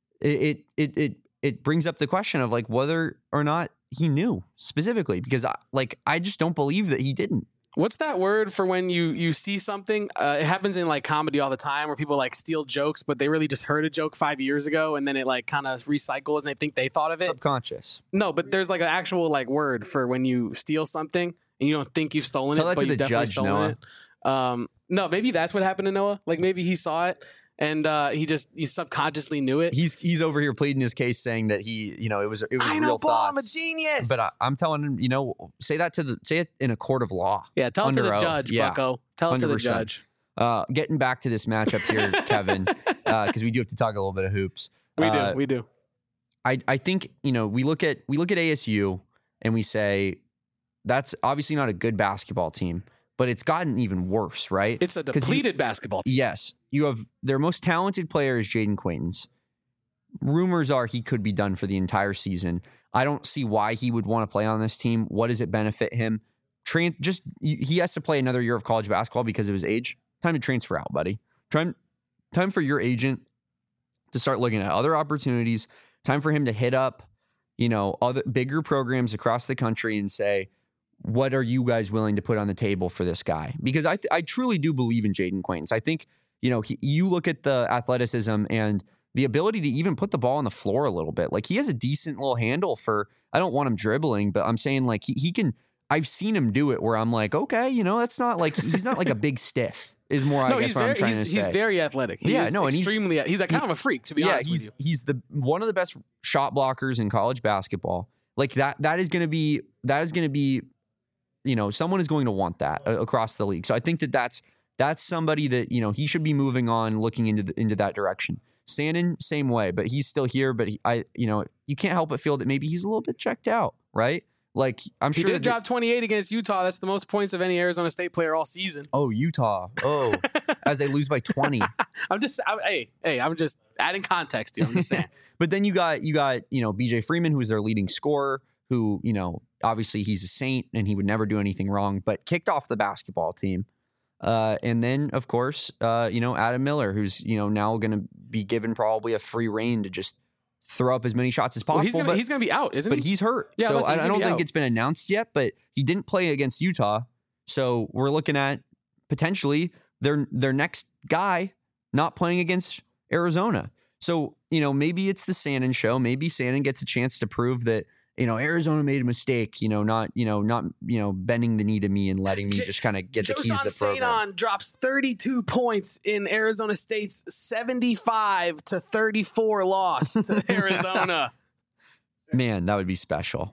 it brings up the question of like whether or not he knew specifically, because I just don't believe that he didn't. What's that word for when you see something? It happens in like comedy all the time where people like steal jokes, but they really just heard a joke 5 years ago and then it like kind of recycles and they think they thought of it. Subconscious. No, but there's like an actual like word for when you steal something and you don't think you've stolen Tell it, that but to you've the definitely judge, stolen Noah. it. No, maybe that's what happened to Noah. Like maybe he saw it. And he subconsciously knew it. He's over here pleading his case, saying that it was I know, real Paul, thoughts. I'm a genius. But I'm telling him, say it in a court of law. Yeah, tell it to the judge, Bucko. Tell it to the judge. Getting back to this matchup here, Kevin, because we do have to talk a little bit of hoops. We do. I think we look at ASU and we say that's obviously not a good basketball team. But it's gotten even worse, right? It's a depleted basketball team. Yes. You have their most talented player is Jaden Quaintance. rumors are he could be done for the entire season. I don't see why he would want to play on this team. What does it benefit him? He has to play another year of college basketball because of his age. Time to transfer out, buddy. Time for your agent to start looking at other opportunities. Time for him to hit up, other bigger programs across the country and say, what are you guys willing to put on the table for this guy? Because I truly do believe in Jaden Quaintance. I think, you look at the athleticism and the ability to even put the ball on the floor a little bit. Like, he has a decent little handle I don't want him dribbling, but I'm saying like he can. I've seen him do it where I'm like, okay, that's not like, he's not like a big stiff is more, I guess what I'm trying to say. He's very athletic. He's like kind of a freak, to be honest with you. He's one of the best shot blockers in college basketball. Like that is going to be, someone is going to want that across the league. So I think that's somebody that, he should be moving on, looking into that direction. Sandin, same way, but he's still here. But you can't help but feel that maybe he's a little bit checked out, right? Like, I'm sure he did drop 28 against Utah. That's the most points of any Arizona State player all season. Oh, Utah. Oh, as they lose by 20. I'm just adding context here. I'm just saying. But then you got BJ Freeman, who's their leading scorer, who, obviously he's a saint and he would never do anything wrong, but kicked off the basketball team. And then, of course, Adam Miller, who's, now going to be given probably a free rein to just throw up as many shots as possible. Well, he's going to be out, isn't he? But he's hurt. Yeah, so I don't think it's been announced yet, but he didn't play against Utah. So we're looking at potentially their next guy not playing against Arizona. So, maybe it's the Sandin show. Maybe Sandin gets a chance to prove that, Arizona made a mistake, not bending the knee to me and letting me just kind of get the keys to the program. Josan drops 32 points in Arizona State's 75-34 loss to Arizona. Man, that would be special.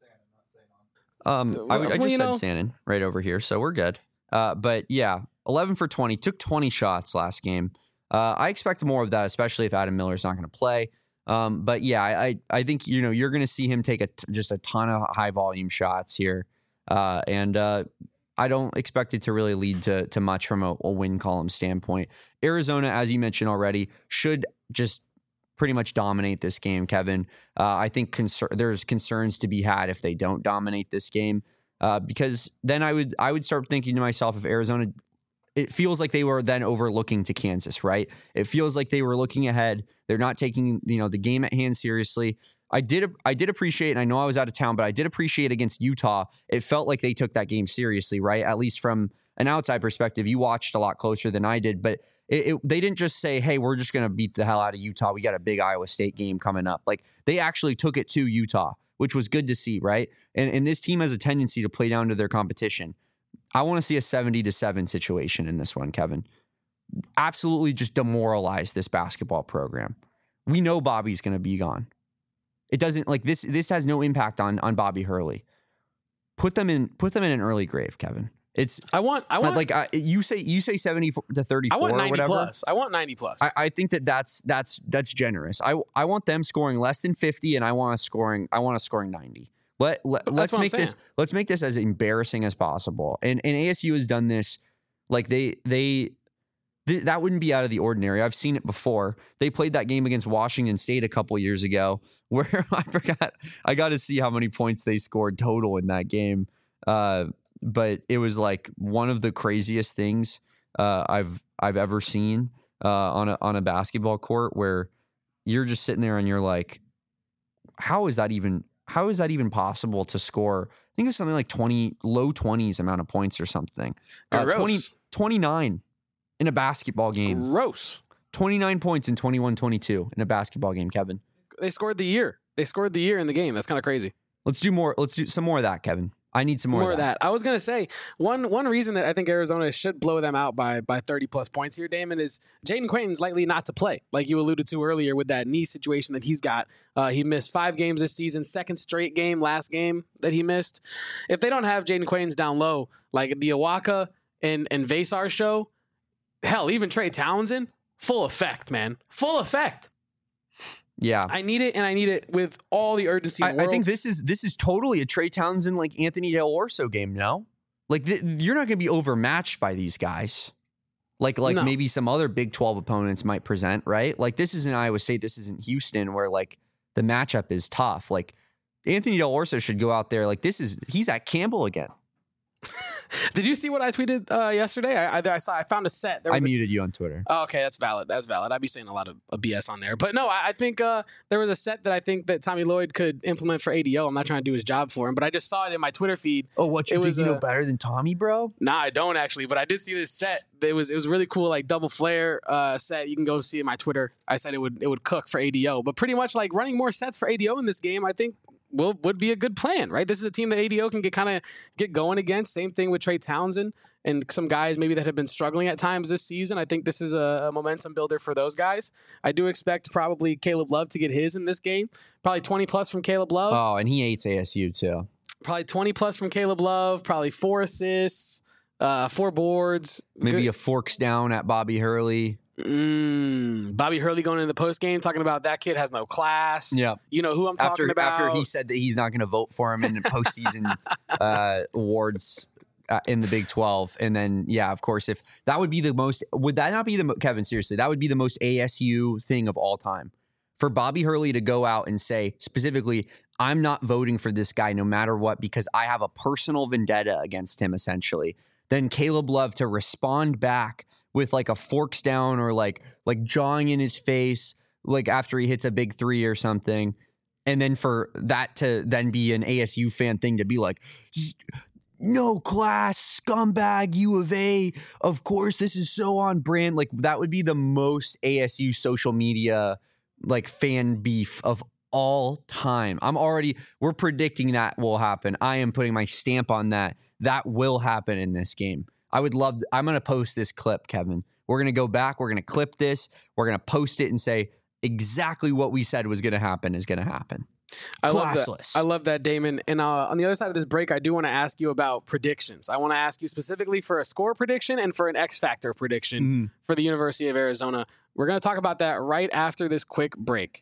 I just said Sandin right over here, so we're good. But yeah, 11 for 20, took 20 shots last game. I expect more of that, especially if Adam Miller's not going to play. But yeah, I think, you're going to see him take just a ton of high volume shots here. And I don't expect it to really lead to much from a win column standpoint. Arizona, as you mentioned already, should just pretty much dominate this game, Kevin. I think there's concerns to be had if they don't dominate this game, because then I would start thinking to myself, if Arizona, it feels like they were then overlooking to Kansas, right? It feels like they were looking ahead. They're not taking, the game at hand seriously. I did appreciate, and I know I was out of town, but I did appreciate against Utah. It felt like they took that game seriously, right? At least from an outside perspective. You watched a lot closer than I did, but they didn't just say, hey, we're just going to beat the hell out of Utah. We got a big Iowa State game coming up. Like, they actually took it to Utah, which was good to see, right? And this team has a tendency to play down to their competition. I want to see a 70-7 situation in this one, Kevin. Absolutely just demoralize this basketball program. We know Bobby's going to be gone. It doesn't, like, this has no impact on Bobby Hurley. Put them in an early grave, Kevin. It's I want like you say 70-34. I want 90 or whatever. plus. I want 90 plus. I think that's generous. I want them scoring less than 50, and I want to scoring 90. Let's make this as embarrassing as possible. And ASU has done this. Like that wouldn't be out of the ordinary. I've seen it before. They played that game against Washington State a couple years ago, where I got to see how many points they scored total in that game. But it was like one of the craziest things I've ever seen on a basketball court, where you're just sitting there and you're like, how is that even possible to score? I think it's something like low 20s amount of points or something. 29 in a basketball game. Gross. 29 points in 21-22 in a basketball game, Kevin. They scored the year. In the game. That's kind of crazy. Let's do some more of that, Kevin. I need some more of that. I was going to say, one reason that I think Arizona should blow them out by 30-plus points here, Damon, is Jaden Quaintance likely not to play, like you alluded to earlier with that knee situation that he's got. He missed 5 games this season, second straight game, last game that he missed. If they don't have Jaden Quaintance down low, like the Awaka and Vasar show, hell, even Trey Townsend, full effect, man. Full effect. Yeah, I need it, and I need it with all the urgency in the world. I think this is totally a Trey Townsend, like Anthony Del Orso game. No, like you're not going to be overmatched by these guys. like no. Maybe some other Big 12 opponents might present, right? Like this isn't Iowa State, this isn't Houston, where like the matchup is tough. Like Anthony Del Orso should go out there. Like he's at Campbell again. Did you see what I tweeted yesterday? I found a set. I muted you on Twitter. Oh, okay, that's valid. I'd be saying a lot of BS on there. But no, I think there was a set that I think that Tommy Lloyd could implement for ADO. I'm not trying to do his job for him, but I just saw it in my Twitter feed. Oh, what, you think you know better than Tommy, bro? Nah, I don't actually, but I did see this set. It was really cool, like double flare set. You can go see it in my Twitter. I said it would cook for ADO, but pretty much like running more sets for ADO in this game, I think would be a good plan, right? This is a team that ADO can get going against. Same thing with Trey Townsend and some guys maybe that have been struggling at times this season. I think this is a momentum builder for those guys. I do expect probably Caleb Love to get his in this game. Probably 20 plus from Caleb Love. Oh, and he hates ASU too. Probably 20 plus from Caleb Love. Probably 4 assists, 4 boards. Maybe a forks down at Bobby Hurley. Bobby Hurley going in the post game talking about that kid has no class. Yeah, you know who I'm talking about. After he said that he's not going to vote for him in the postseason awards in the Big 12, and then of course, if that would be the most, would that not be the Kevin? Seriously, that would be the most ASU thing of all time for Bobby Hurley to go out and say specifically, "I'm not voting for this guy no matter what because I have a personal vendetta against him." Essentially, then Caleb Love to respond back with like a forks down or like jawing in his face, like after he hits a big 3 or something. And then for that to then be an ASU fan thing to be like, no class, scumbag, U of A. Of course, this is so on brand. Like that would be the most ASU social media, like fan beef of all time. We're predicting that will happen. I am putting my stamp on that. That will happen in this game. I'm going to post this clip, Kevin. We're going to go back. We're going to clip this. We're going to post it and say exactly what we said was going to happen is going to happen. I love that, Damon. And on the other side of this break, I do want to ask you about predictions. I want to ask you specifically for a score prediction and for an X Factor prediction for the University of Arizona. We're going to talk about that right after this quick break.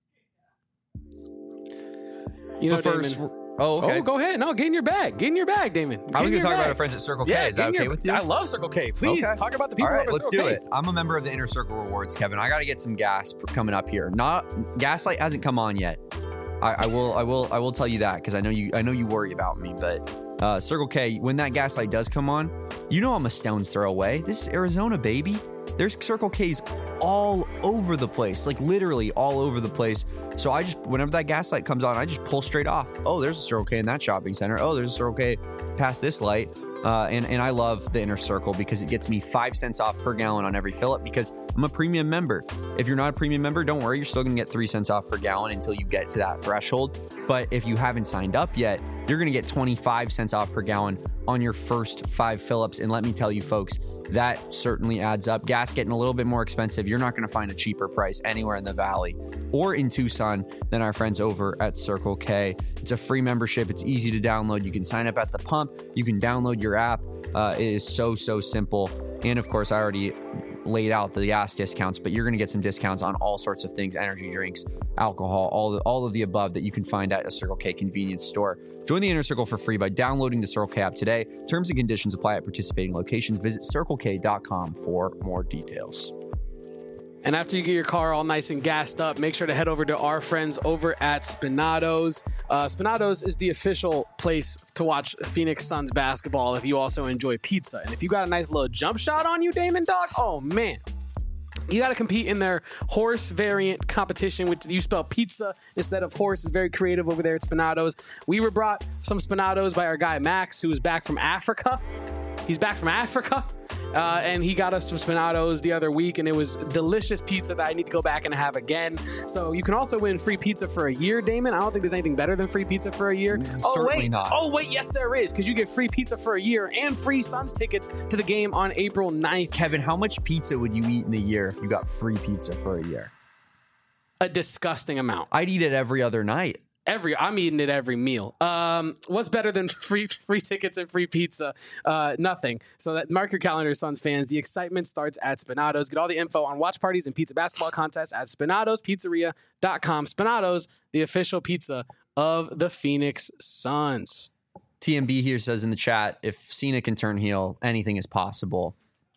You know, Damon. Oh, okay. Oh, go ahead. No, get in your bag. Get in your bag, Damon. I was going to talk about our friends at Circle K. Is that okay with you? I love Circle K. Please talk about the people over at Circle K. Let's do it. I'm a member of the Inner Circle Rewards, Kevin. I got to get some gas coming up here. Gaslight hasn't come on yet. I will tell you that because I know you worry about me. But Circle K, when that Gaslight does come on, you know I'm a stone's throw away. This is Arizona, baby. There's Circle K's all over the place, like literally all over the place. So whenever that Gaslight comes on, I just pull straight off. Oh, there's a Circle K in that shopping center. Oh, there's a Circle K past this light. And I love the Inner Circle because it gets me 5 cents off per gallon on every fill up because I'm a premium member. If you're not a premium member, don't worry. You're still going to get 3 cents off per gallon until you get to that threshold. But if you haven't signed up yet, you're going to get 25 cents off per gallon on your first 5 fill-ups. And let me tell you, folks, that certainly adds up. Gas getting a little bit more expensive. You're not going to find a cheaper price anywhere in the Valley or in Tucson than our friends over at Circle K. It's a free membership. It's easy to download. You can sign up at the pump. You can download your app. It is so simple. And of course, I already laid out the gas discounts, but you're going to get some discounts on all sorts of things, energy drinks, alcohol, all of the above that you can find at a Circle K convenience store. Join the Inner Circle for free by downloading the Circle K app today. Terms and conditions apply at participating locations. Visit CircleK.com for more details. And after you get your car all nice and gassed up, make sure to head over to our friends over at Spinatos. Spinatos is the official place to watch Phoenix Suns basketball if you also enjoy pizza. And if you got a nice little jump shot on you, Damon Dog, oh man. You got to compete in their horse variant competition, which you spell pizza instead of horse. Is very creative over there at Spinatos. We were brought some Spinatos by our guy Max, who is back from Africa. He's back from Africa. And he got us some Spinatos the other week, and it was delicious pizza that I need to go back and have again. So you can also win free pizza for a year, Damon. I don't think there's anything better than free pizza for a year. Certainly not. Oh, wait, yes, there is, because you get free pizza for a year and free Suns tickets to the game on April 9th. Kevin, how much pizza would you eat in a year if you got free pizza for a year? A disgusting amount. I'd eat it every other night. I'm eating it every meal. What's better than free tickets and free pizza? Nothing. So mark your calendar, Suns fans. The excitement starts at Spinatos. Get all the info on watch parties and pizza basketball contests at SpinatosPizzeria.com. Spinatos, the official pizza of the Phoenix Suns. TMB here says in the chat, if Cena can turn heel, anything is possible.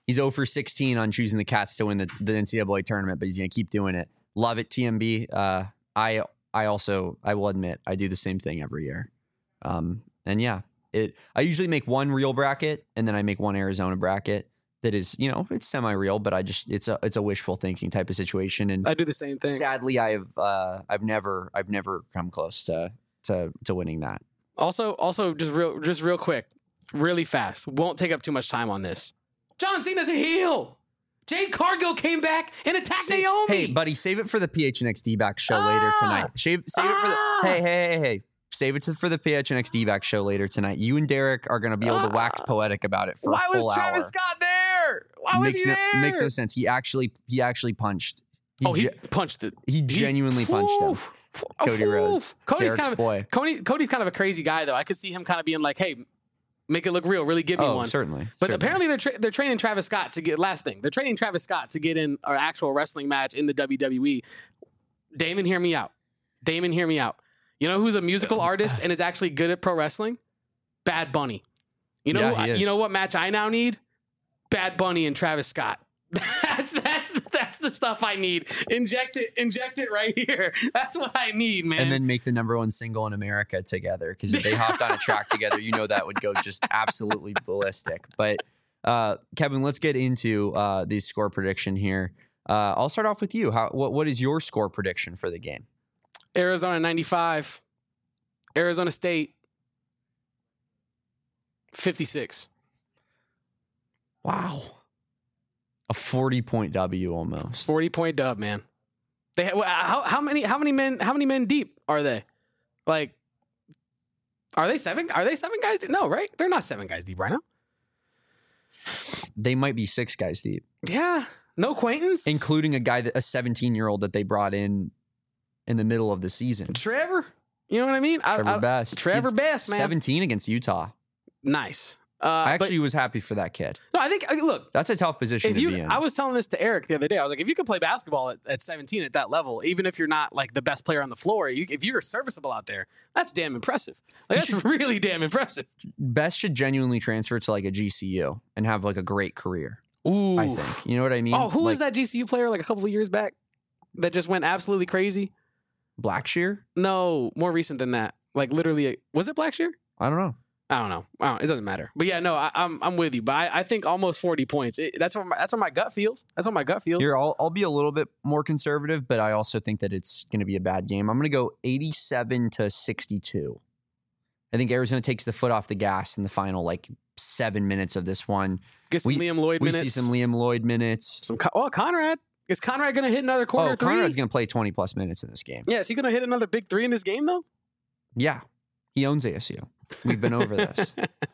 He's 0 for 16 on choosing the Cats to win the NCAA tournament, but he's going to keep doing it. Love it, TMB. I will admit, I do the same thing every year. And yeah, I usually make one real bracket and then I make one Arizona bracket that is, it's semi-real, but it's a wishful thinking type of situation. And I do the same thing. Sadly, I've never come close to winning that. Also, just real quick, really fast. Won't take up too much time on this. John Cena's a heel. Jade Cargill came back and attacked Naomi. Hey, buddy, save it for the PHNX D-back show later tonight. Save it for the hey. Save it for the PHNX D-back show later tonight. You and Derek are going to be able to wax poetic about it for a full hour. Why was Travis Scott there? Why was he there? Makes no sense. He actually punched. He punched it. He genuinely punched him. Cody Rhodes. Cody's Derek's boy. Cody's kind of a crazy guy, though. I could see him kind of being like, hey, make it look real. Really give me one. Certainly. But apparently they're training Travis Scott to get, last thing, they're training Travis Scott to get in an actual wrestling match in the WWE. Damon, hear me out. You know who's a musical artist and is actually good at pro wrestling? Bad Bunny. You know what match I now need? Bad Bunny and Travis Scott. That's the stuff I need. Inject it right here. That's what I need, man. And then make the number one single in America together, because if they hopped on a track together, that would go just absolutely ballistic. But Kevin, let's get into the score prediction here. I'll start off with you. What is your score prediction for the game? Arizona 95. Arizona State 56. Wow. A 40-point W almost. 40-point dub, man. How many men deep are they? Like, are they 7? Are they 7 guys deep? No, right? They're not 7 guys deep right now. They might be 6 guys deep. Yeah. No Quaintance, including a 17-year-old that they brought in the middle of the season. Trevor. You know what I mean? Trevor Best, man. 17 against Utah. Nice. I actually was happy for that kid. No, I think, look. That's a tough position to be in. I was telling this to Eric the other day. I was like, if you can play basketball at 17 at that level, even if you're not like the best player on the floor, if you're serviceable out there, that's damn impressive. That's really damn impressive. Best should genuinely transfer to like a GCU and have like a great career. Ooh. I think. You know what I mean? Oh, who was that GCU player like a couple of years back that just went absolutely crazy? Blackshear? No, more recent than that. Like literally, was it Blackshear? I don't know. It doesn't matter. But yeah, no, I'm with you. But I think almost 40 points. That's what my gut feels. That's what my gut feels. Here, I'll be a little bit more conservative, but I also think that it's going to be a bad game. I'm going to go 87-62. I think Arizona takes the foot off the gas in the final 7 minutes of this one. Get some Liam Lloyd minutes. We see some Liam Lloyd minutes. Conrad. Is Conrad going to hit another corner 3? Conrad's going to play 20-plus minutes in this game. Yeah, is he going to hit another big 3 in this game, though? Yeah. He owns ASU. We've been over this.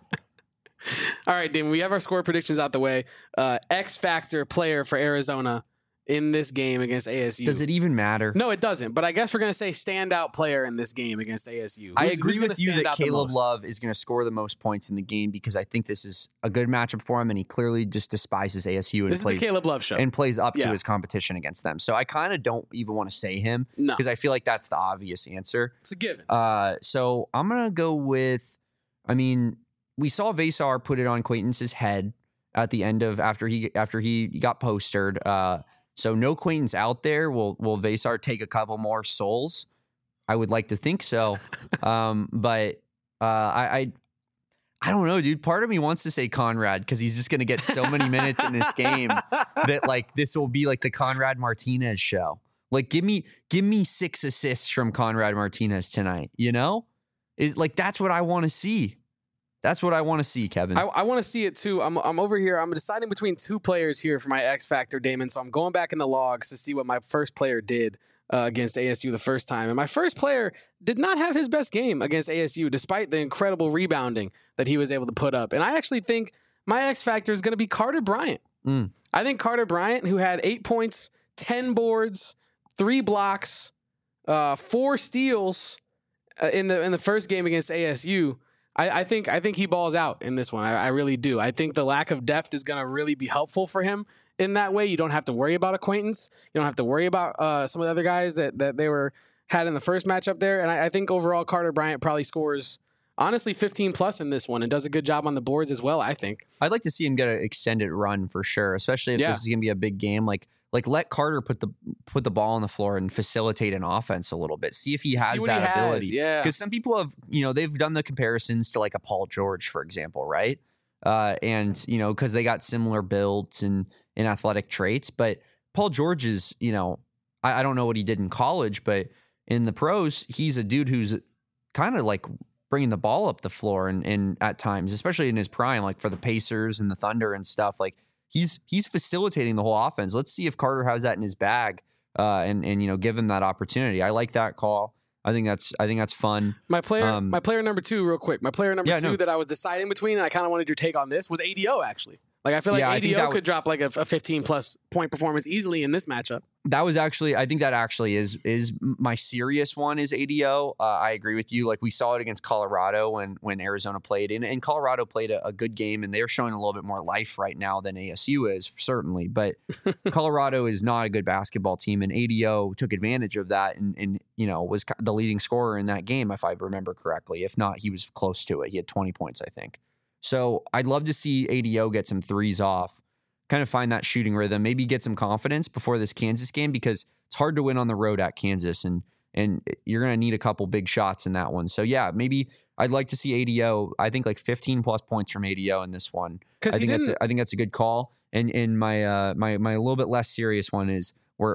All right, Damon, we have our score predictions out the way. X Factor player for Arizona in this game against ASU. Does it even matter? No, it doesn't. But I guess we're going to say standout player in this game against ASU. I agree with you that Caleb Love is going to score the most points in the game because I think this is a good matchup for him, and he clearly just despises ASU and this plays is the Caleb Love show and plays up to his competition against them. So I kind of don't even want to say him because I feel like that's the obvious answer. It's a given. So I'm going to go with. I mean, we saw Vesar put it on Quaintance's head at the end of after he got postered. So no Quaintance out there. Will Vesar take a couple more souls? I would like to think so. But I don't know, dude. Part of me wants to say Conrad because he's just going to get so many minutes in this game that this will be like the Conrad Martinez show. Like give me 6 assists from Conrad Martinez tonight. You know, that's what I want to see. That's what I want to see, Kevin. I want to see it too. I'm over here. I'm deciding between 2 players here for my X Factor, Damon. So I'm going back in the logs to see what my first player did against ASU the first time. And my first player did not have his best game against ASU, despite the incredible rebounding that he was able to put up. And I actually think my X Factor is going to be Carter Bryant. I think Carter Bryant, who had 8 points, 10 boards, 3 blocks, 4 steals in the first game against ASU. I think he balls out in this one. I really do. I think the lack of depth is going to really be helpful for him in that way. You don't have to worry about Acquaintance. You don't have to worry about some of the other guys that they had in the first matchup there. And I think overall Carter Bryant probably scores honestly 15 plus in this one and does a good job on the boards as well, I think. I'd like to see him get an extended run for sure, especially if this is going to be a big game. Like let Carter put the ball on the floor and facilitate an offense a little bit. See if he has that ability. Yeah. Because some people have, they've done the comparisons to like a Paul George, for example, right? And, because they got similar builds and athletic traits. But Paul George is, I don't know what he did in college, but in the pros, he's a dude who's kind of like bringing the ball up the floor and at times, especially in his prime, like for the Pacers and the Thunder and stuff, like he's facilitating the whole offense. Let's see if Carter has that in his bag and give him that opportunity. I like that call. I think that's fun. My player number 2, real quick. My player number 2 that I was deciding between, and I kind of wanted your take on this, was ADO actually. Like I feel like ADO could drop like a 15 plus point performance easily in this matchup. That was actually, I think that actually is my serious one is ADO. I agree with you. Like we saw it against Colorado when Arizona played, and Colorado played a good game, and they're showing a little bit more life right now than ASU is, certainly. But Colorado is not a good basketball team, and ADO took advantage of that and was the leading scorer in that game, if I remember correctly. If not, he was close to it. He had 20 points, I think. So I'd love to see ADO get some threes off, kind of find that shooting rhythm, maybe get some confidence before this Kansas game, because it's hard to win on the road at Kansas, and you're going to need a couple big shots in that one. So yeah, maybe I'd like to see ADO. I think like 15 plus points from ADO in this one. I think that's a good call. And my little bit less serious one is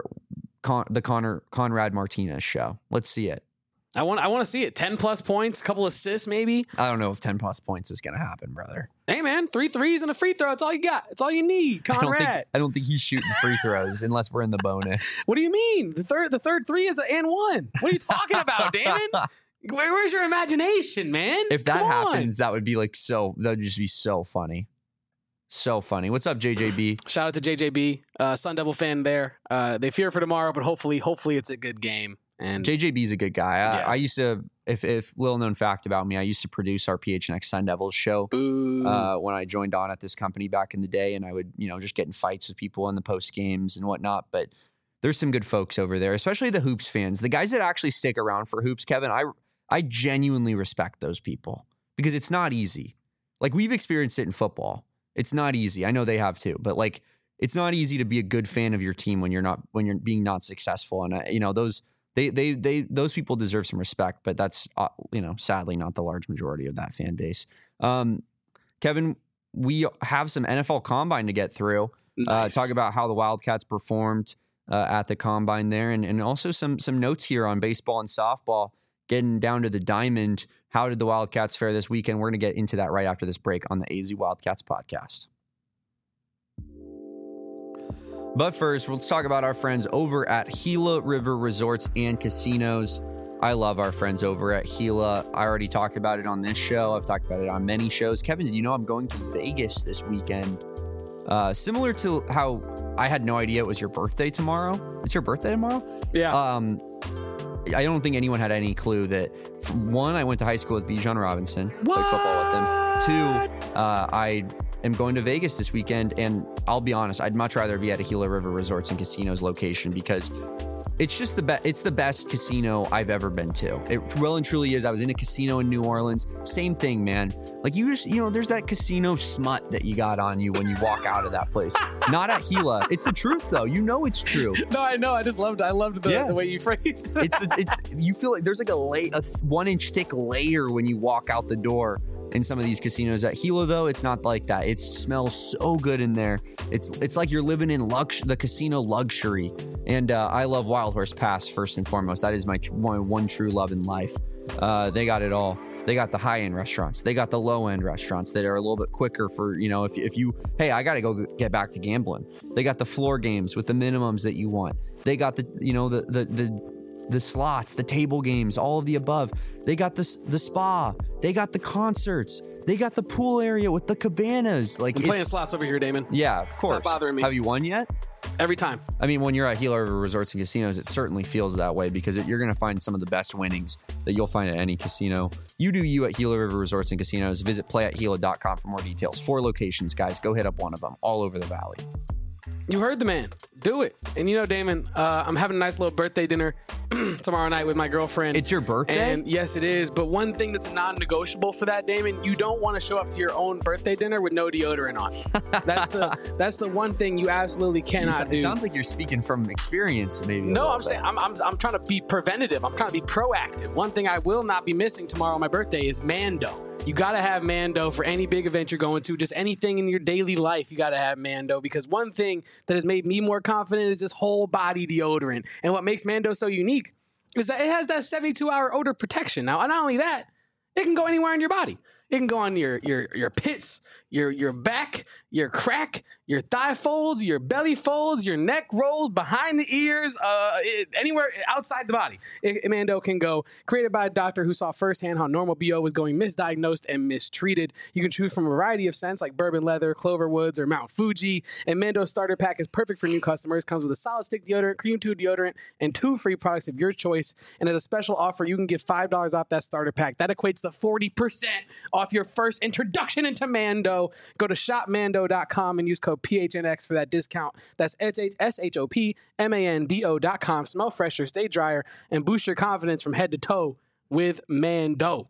the Conrad Martinez show. Let's see it. I want to see it. 10 plus points, a couple assists maybe. I don't know if 10 plus points is going to happen, brother. Hey man, 3 threes and a free throw. That's all you got. That's all you need, Conrad. I don't think he's shooting free throws unless we're in the bonus. What do you mean? The third three is an and one. What are you talking about, Damon? Where's your imagination, man? If that happens, that would be that would just be so funny. So funny. What's up, JJB? Shout out to JJB, Sun Devil fan there. They fear for tomorrow, but hopefully it's a good game. And JJB's a good guy. I used to, if little known fact about me, I used to produce our PHNX Sun Devils show when I joined on at this company back in the day, and I would, just get in fights with people in the post games and whatnot. But there's some good folks over there, especially the Hoops fans, the guys that actually stick around for Hoops. Kevin, I genuinely respect those people because it's not easy. Like we've experienced it in football. It's not easy. I know they have too, but like it's not easy to be a good fan of your team when you're being not successful, and those. Those people deserve some respect, but that's sadly not the large majority of that fan base. Kevin, we have some NFL Combine to get through. Nice. Talk about how the Wildcats performed at the Combine there, and also some notes here on baseball and softball. Getting down to the diamond, how did the Wildcats fare this weekend? We're going to get into that right after this break on the AZ Wildcats podcast. But first, let's talk about our friends over at Gila River Resorts and Casinos. I love our friends over at Gila. I already talked about it on this show. I've talked about it on many shows. Kevin, did you know I'm going to Vegas this weekend? Similar to how I had no idea it was your birthday tomorrow. It's your birthday tomorrow? Yeah. I don't think anyone had any clue that, one, I went to high school with Bijan Robinson. What? Played football with them. 2, I am going to Vegas this weekend, and I'll be honest, I'd much rather be at a Gila River Resorts and Casinos location because it's just it's the best casino I've ever been to. It well and truly is. I was in a casino in New Orleans. Same thing, man. Like you just, there's that casino smut that you got on you when you walk out of that place. Not at Gila. It's the truth though. It's true. No, I know. I loved the way you phrased it. It's you feel like there's like a 1-inch thick layer when you walk out the door. In some of these casinos at Gila, though, it's not like that. It smells so good in there. It's like you're living in the casino luxury. And I love Wild Horse Pass first and foremost. That is my one true love in life. They got it all. They got the high-end restaurants. They got the low-end restaurants that are a little bit quicker for, if you, hey, I got to go get back to gambling. They got the floor games with the minimums that you want. They got the slots, the table games, all of the above. They got the spa. They got the concerts. They got the pool area with the cabanas. Like I'm playing slots over here, Damon. Yeah, of course. It's not bothering me. Have you won yet? Every time. I mean, when you're at Gila River Resorts and Casinos, it certainly feels that way because you're going to find some of the best winnings that you'll find at any casino. You do you at Gila River Resorts and Casinos. Visit playatgila.com for more details. 4 locations, guys. Go hit up one of them all over the valley. You heard the man. Do it. And you know, Damon, I'm having a nice little birthday dinner tomorrow night with my girlfriend. It's your birthday? And yes, it is. But one thing that's non-negotiable for that, Damon, you don't want to show up to your own birthday dinner with no deodorant on. That's the one thing you absolutely cannot do. It sounds like you're speaking from experience, maybe. No, I'm saying I'm trying to be preventative. I'm trying to be proactive. One thing I will not be missing tomorrow on my birthday is Mando. You got to have Mando for any big event you're going to. Just anything in your daily life, you got to have Mando. Because one thing that has made me more confident is this whole body deodorant. And what makes Mando so unique is that it has that 72-hour odor protection. Now, not only that, it can go anywhere in your body. It can go on your pits, your back, your crack, your thigh folds, your belly folds, your neck rolls, behind the ears, anywhere outside the body. Mando can go. Created by a doctor who saw firsthand how normal BO was going misdiagnosed and mistreated. You can choose from a variety of scents like bourbon leather, clover woods, or Mount Fuji. And Mando's starter pack is perfect for new customers. Comes with a solid stick deodorant, cream tube deodorant, and 2 free products of your choice. And as a special offer, you can get $5 off that starter pack. That equates to 40% off your first introduction into Mando. Go to shopmando.com and use code PHNX for that discount. That's shopmando.com. Smell fresher, stay drier, and boost your confidence from head to toe with Mando.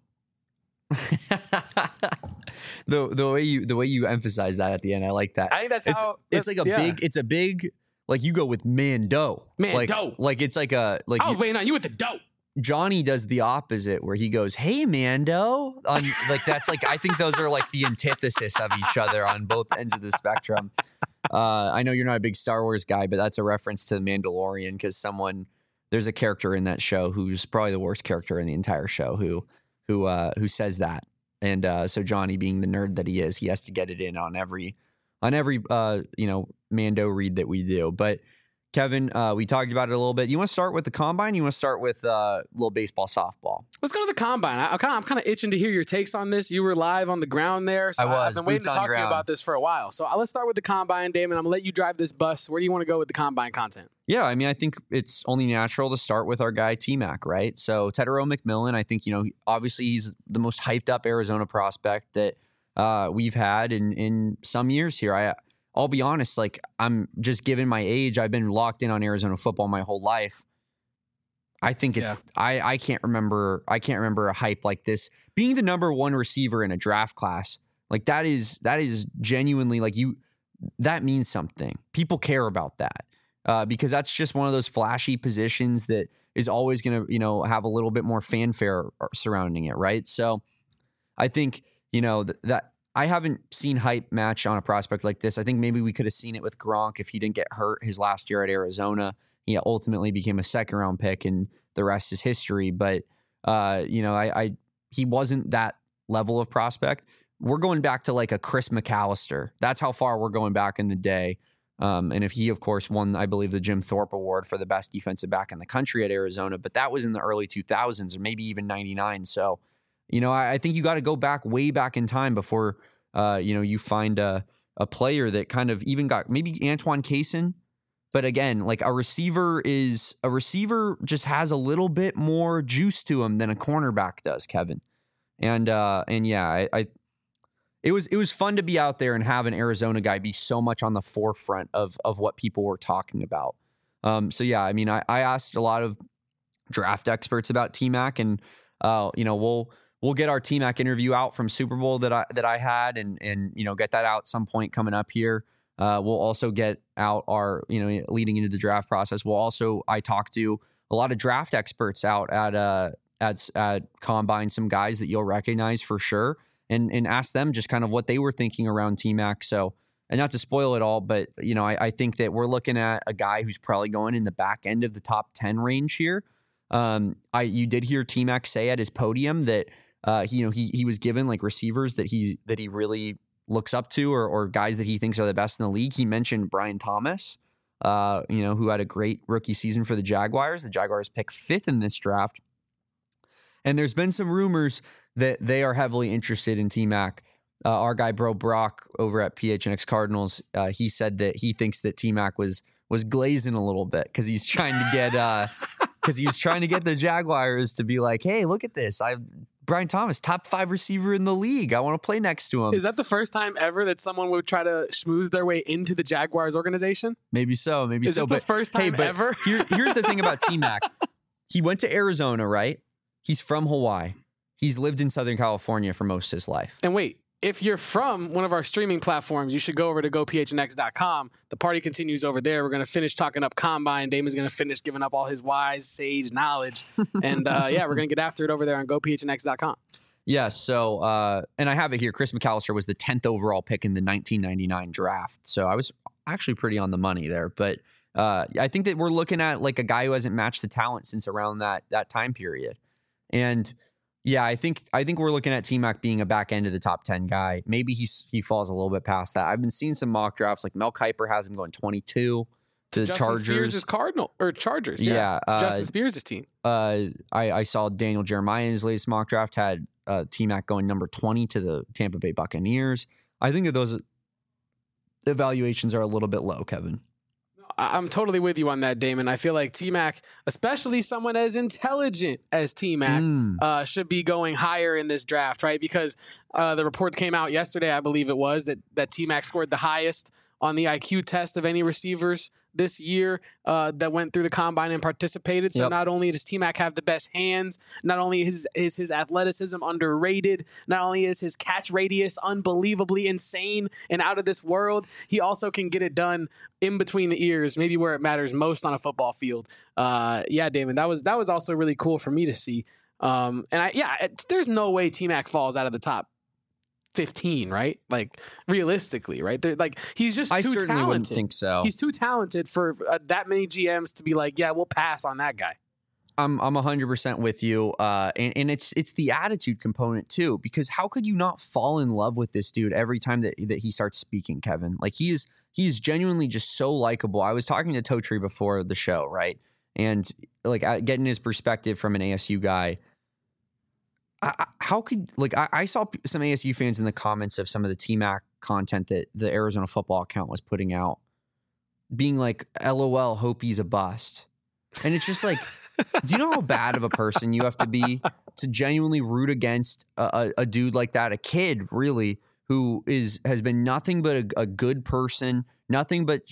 The way you emphasize that at the end, I like that. I think that's how it's like a big like you go with Mando. Like it's like a like. I was waiting on you with the dough. Johnny does the opposite where he goes, "Hey, Mando." Like that's like I think those are like the antithesis of each other on both ends of the spectrum. I know you're not a big Star Wars guy, but that's a reference to The Mandalorian because there's a character in that show who's probably the worst character in the entire show who says that. And so Johnny, being the nerd that he is, he has to get it in on every Mando read that we do. But Kevin, we talked about it a little bit. You want to start with the combine? You want to start with little baseball, softball? Let's go to the combine. I'm kind of itching to hear your takes on this. You were live on the ground there, so I've been waiting to talk to you about this for a while. So let's start with the combine, Damon. I'm going to let you drive this bus. Where do you want to go with the combine content? Yeah, I mean, I think it's only natural to start with our guy T-Mac, right? So Tetairoa McMillan, I think, obviously he's the most hyped up Arizona prospect that we've had in some years here. I'll be honest, like I'm just given my age, I've been locked in on Arizona football my whole life. I think I can't remember a hype like this. Being the number 1 receiver in a draft class, like that is genuinely like that means something. People care about that because that's just one of those flashy positions that is always going to, have a little bit more fanfare surrounding it. Right. So I think, that I haven't seen hype match on a prospect like this. I think maybe we could have seen it with Gronk if he didn't get hurt his last year at Arizona. He ultimately became a 2nd-round pick, and the rest is history. But he wasn't that level of prospect. We're going back to like a Chris McAllister. That's how far we're going back in the day. And if he, of course, won, I believe, the Jim Thorpe Award for the best defensive back in the country at Arizona. But that was in the early 2000s or maybe even 99. So. I think you got to go way back in time before, you find a player that kind of even got maybe Antoine Cason. But again, like a receiver just has a little bit more juice to him than a cornerback does, Kevin. And yeah, it was fun to be out there and have an Arizona guy be so much on the forefront of what people were talking about. So yeah, I mean, I asked a lot of draft experts about T-Mac, and we'll get our T-Mac interview out from Super Bowl that I had and get that out some point coming up here. We'll also get out our, leading into the draft process. I talked to a lot of draft experts out at Combine, some guys that you'll recognize for sure, and ask them just kind of what they were thinking around T-Mac. So, and not to spoil it all, but, I think that we're looking at a guy who's probably going in the back end of the top 10 range here. You did hear T-Mac say at his podium that, he was given like receivers that he really looks up to or guys that he thinks are the best in the league. He mentioned Brian Thomas, who had a great rookie season for the Jaguars. The Jaguars picked 5th in this draft. And there's been some rumors that they are heavily interested in T-Mac. Our guy Bro Brock over at PHNX Cardinals, he said that he thinks that T-Mac was glazing a little bit because he's trying to get the Jaguars to be like, hey, look at this. Brian Thomas, top 5 receiver in the league. I want to play next to him. Is that the first time ever that someone would try to schmooze their way into the Jaguars organization? Maybe so. Is it the first time ever? Here's the thing about T-Mac. He went to Arizona, right? He's from Hawaii. He's lived in Southern California for most of his life. And wait, if you're from one of our streaming platforms, you should go over to gophnx.com. The party continues over there. We're going to finish talking up Combine. Damon's going to finish giving up all his wise, sage knowledge. And we're going to get after it over there on gophnx.com. Yeah, so, and I have it here. Chris McAllister was the 10th overall pick in the 1999 draft. So I was actually pretty on the money there. But I think that we're looking at like a guy who hasn't matched the talent since around that time period. And yeah, I think we're looking at T-Mac being a back end of the top 10 guy. Maybe he falls a little bit past that. I've been seeing some mock drafts, like Mel Kiper has him going 22 to the Justin Chargers. Spears' Chargers. Yeah. It's Justin Spears' team. I saw Daniel Jeremiah in his latest mock draft had T-Mac going number 20 to the Tampa Bay Buccaneers. I think that those evaluations are a little bit low, Kevin. I'm totally with you on that, Damon. I feel like T-Mac, especially someone as intelligent as T-Mac, should be going higher in this draft, right? Because the report came out yesterday, I believe it was, that T-Mac scored the highest on the IQ test of any receivers this year that went through the Combine and participated. So not only does T-Mac have the best hands, not only is his athleticism underrated, not only is his catch radius unbelievably insane and out of this world, he also can get it done in between the ears, maybe where it matters most on a football field. Damon, that was also really cool for me to see. There's no way T-Mac falls out of the top 15, right? Like realistically, right? He's just too talented. I certainly wouldn't think so. He's too talented for that many GMs to be like, yeah, we'll pass on that guy. I'm 100% with you, and it's the attitude component too. Because how could you not fall in love with this dude every time that he starts speaking, Kevin? Like he is genuinely just so likable. I was talking to Totri before the show, right? And like getting his perspective from an ASU guy. I saw some ASU fans in the comments of some of the T-Mac content that the Arizona football account was putting out being like, LOL, hope he's a bust. And it's just like, do you know how bad of a person you have to be to genuinely root against a dude like that, a kid really, who has been nothing but a good person, nothing but,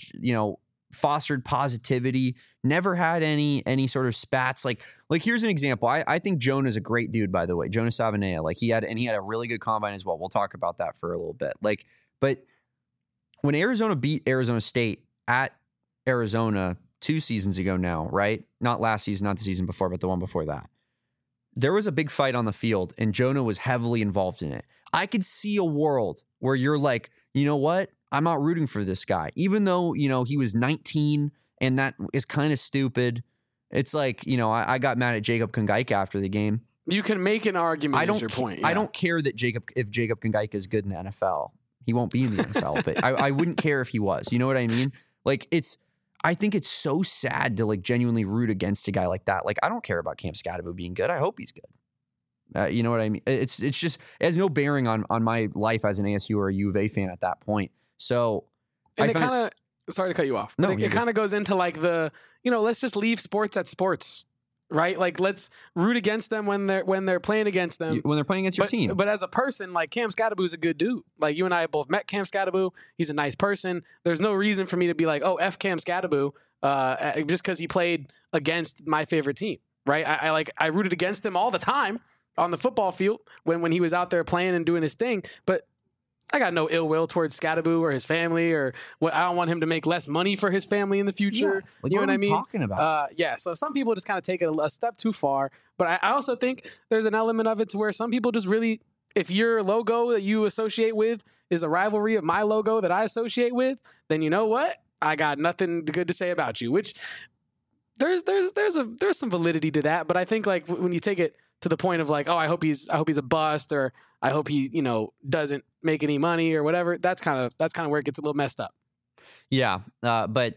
fostered positivity, never had any sort of spats. Like here's an example. I think Jonah's a great dude, by the way. Jonah Savanea. Like he had a really good combine as well. We'll talk about that for a little bit. But when Arizona beat Arizona State at Arizona 2 seasons ago now, right? Not last season, not the season before, but the one before that. There was a big fight on the field and Jonah was heavily involved in it. I could see a world where you're like, you know what? I'm not rooting for this guy, even though, he was 19 and that is kind of stupid. It's like, I got mad at Jacob Kongaika after the game. You can make an argument. Is your point. Yeah. I don't care that if Jacob Kongaika is good in the NFL, he won't be in the NFL, but I wouldn't care if he was. You know what I mean? Like I think it's so sad to like genuinely root against a guy like that. Like I don't care about Cam Scatterbo being good. I hope he's good. You know what I mean? It's just, it has no bearing on my life as an ASU or a U of A fan at that point. So, and it kind of, sorry to cut you off. No, it kind of goes into like let's just leave sports at sports, right? Like let's root against them when they're playing against them. When they're playing against your team. But as a person, like Cam Scatterbo's a good dude. Like you and I have both met Cam Scatterbo. He's a nice person. There's no reason for me to be like, oh, F Cam Scatterbo, just because he played against my favorite team, right? I rooted against him all the time on the football field when he was out there playing and doing his thing, but I got no ill will towards Scatterbo or his family, or what. I don't want him to make less money for his family in the future. Yeah, like, you know what I mean? Talking about? So some people just kind of take it a step too far. But I also think there's an element of it to where some people just really, if your logo that you associate with is a rivalry of my logo that I associate with, then you know what? I got nothing good to say about you. Which there's some validity to that. But I think like when you take it to the point of like, oh, I hope he's a bust, or I hope he, doesn't make any money or whatever. That's kind of where it gets a little messed up. Yeah. But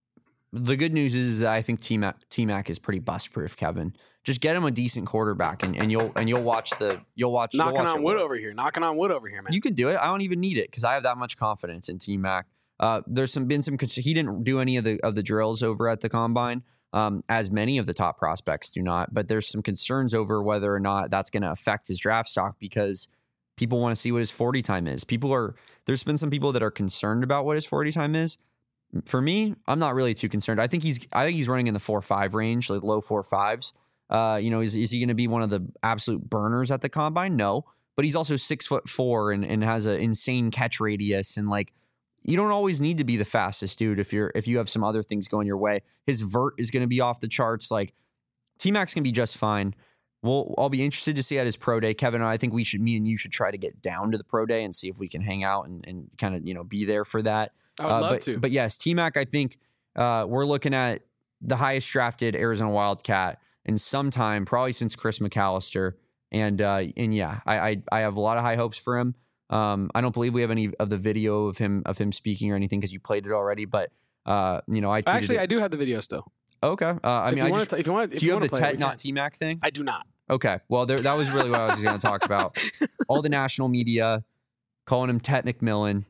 the good news is that I think T-Mac is pretty bust proof, Kevin. Just get him a decent quarterback and you'll watch. Knocking on wood over here, man. You can do it. I don't even need it because I have that much confidence in T-Mac. There's been some, he didn't do any of the drills over at the combine. as many of the top prospects do not. But there's some concerns over whether or not that's going to affect his draft stock because people want to see what his 40 time is. There's been some people that are concerned about what his 40 time is. For me, I'm not really too concerned. I think he's running in the 4.5 range, like low 4.5s. Is he going to be one of the absolute burners at the combine? No, but he's also 6'4" and has an insane catch radius. And like, you don't always need to be the fastest dude if you have some other things going your way. His vert is going to be off the charts. Like, T-Mac's going to be just fine. I'll be interested to see at his pro day. Kevin, I think me and you should try to get down to the pro day and see if we can hang out and kind of, be there for that. I would love to. But yes, T-Mac, I think we're looking at the highest drafted Arizona Wildcat in some time, probably since Chris McAllister. And yeah, I have a lot of high hopes for him. I don't believe we have any of the video of him speaking or anything because you played it already. But I do have the video still. Okay. Do you have the Tet not T-Mac thing? I do not. Okay. Well, that was really what I was going to talk about. All the national media calling him Tet McMillan.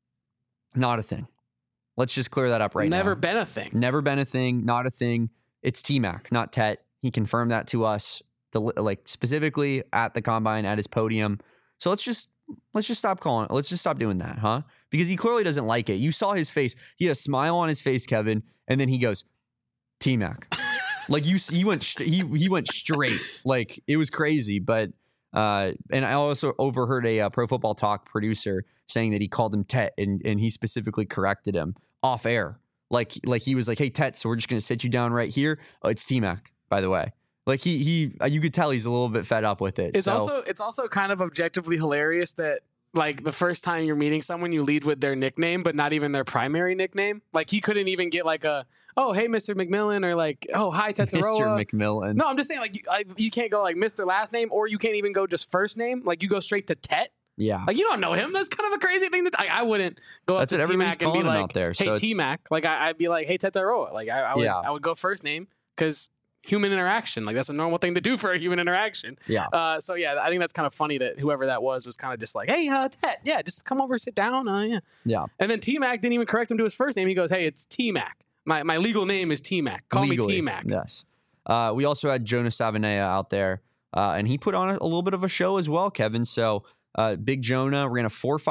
Not a thing. Let's just clear that up right now. Never been a thing. Never been a thing. Not a thing. It's T-Mac, not Tet. He confirmed that to us, specifically at the combine, at his podium. So let's just stop calling it. Let's just stop doing that, huh? Because he clearly doesn't like it. You saw his face. He had a smile on his face, Kevin, and then he goes, T-Mac. Like he went straight. Like it was crazy. But and I also overheard a Pro Football Talk producer saying that he called him Tet, and he specifically corrected him off air. Like he was like, "Hey Tet, so we're just gonna sit you down right here." Oh, it's T-Mac, by the way. Like he you could tell he's a little bit fed up with it. It's also kind of objectively hilarious that like the first time you're meeting someone, you lead with their nickname, but not even their primary nickname. Like he couldn't even get like oh, hey, Mr. McMillan, or like, oh, hi, Tetaroa. Mr. McMillan. No, I'm just saying like you can't go like Mr. last name, or you can't even go just first name. Like you go straight to Tet. Yeah. Like you don't know him. That's kind of a crazy thing I wouldn't go up to T-Mac and be like, hey, so T-Mac. Like I'd be like, hey, Tetaroa. Like I would go first name because human interaction. Like that's a normal thing to do for a human interaction. Yeah. So yeah, I think that's kind of funny that whoever that was kind of just like, hey, Tet, yeah, just come over, sit down. Yeah. Yeah. And then T-Mac didn't even correct him to his first name. He goes, hey, it's T-Mac. My legal name is T-Mac. Call me T-Mac. Yes. We also had Jonah Savanea out there, and he put on a little bit of a show as well, Kevin. So Big Jonah ran a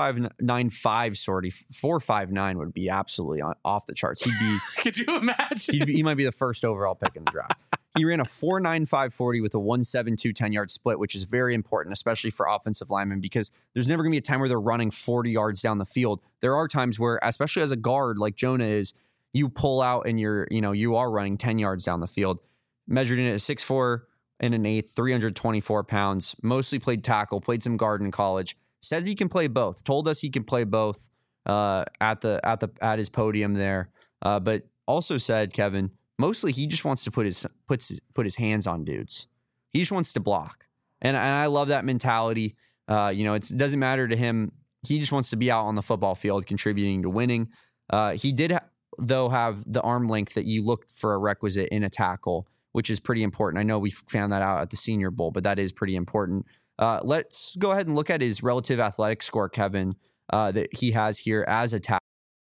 4.595 sortie. 4.59 would be absolutely off the charts. He'd be. Could you imagine? He might be the first overall pick in the draft. He ran a 4.95 40 with a 1.72 10-yard split, which is very important, especially for offensive linemen, because there's never going to be a time where they're running 40 yards down the field. There are times where, especially as a guard like Jonah is, you pull out and you are running 10 yards down the field. Measured in at 6'4" and an 1/8, 324 pounds. Mostly played tackle, played some guard in college. Says he can play both. Told us he can play both at his podium there. But also said, Kevin, mostly he just wants to put his hands on dudes. He just wants to block, and I love that mentality. It doesn't matter to him. He just wants to be out on the football field, contributing to winning. He did though have the arm length that you looked for a requisite in a tackle, which is pretty important. I know we found that out at the Senior Bowl, but that is pretty important. Let's go ahead and look at his relative athletic score, Kevin, that he has here as a tackle.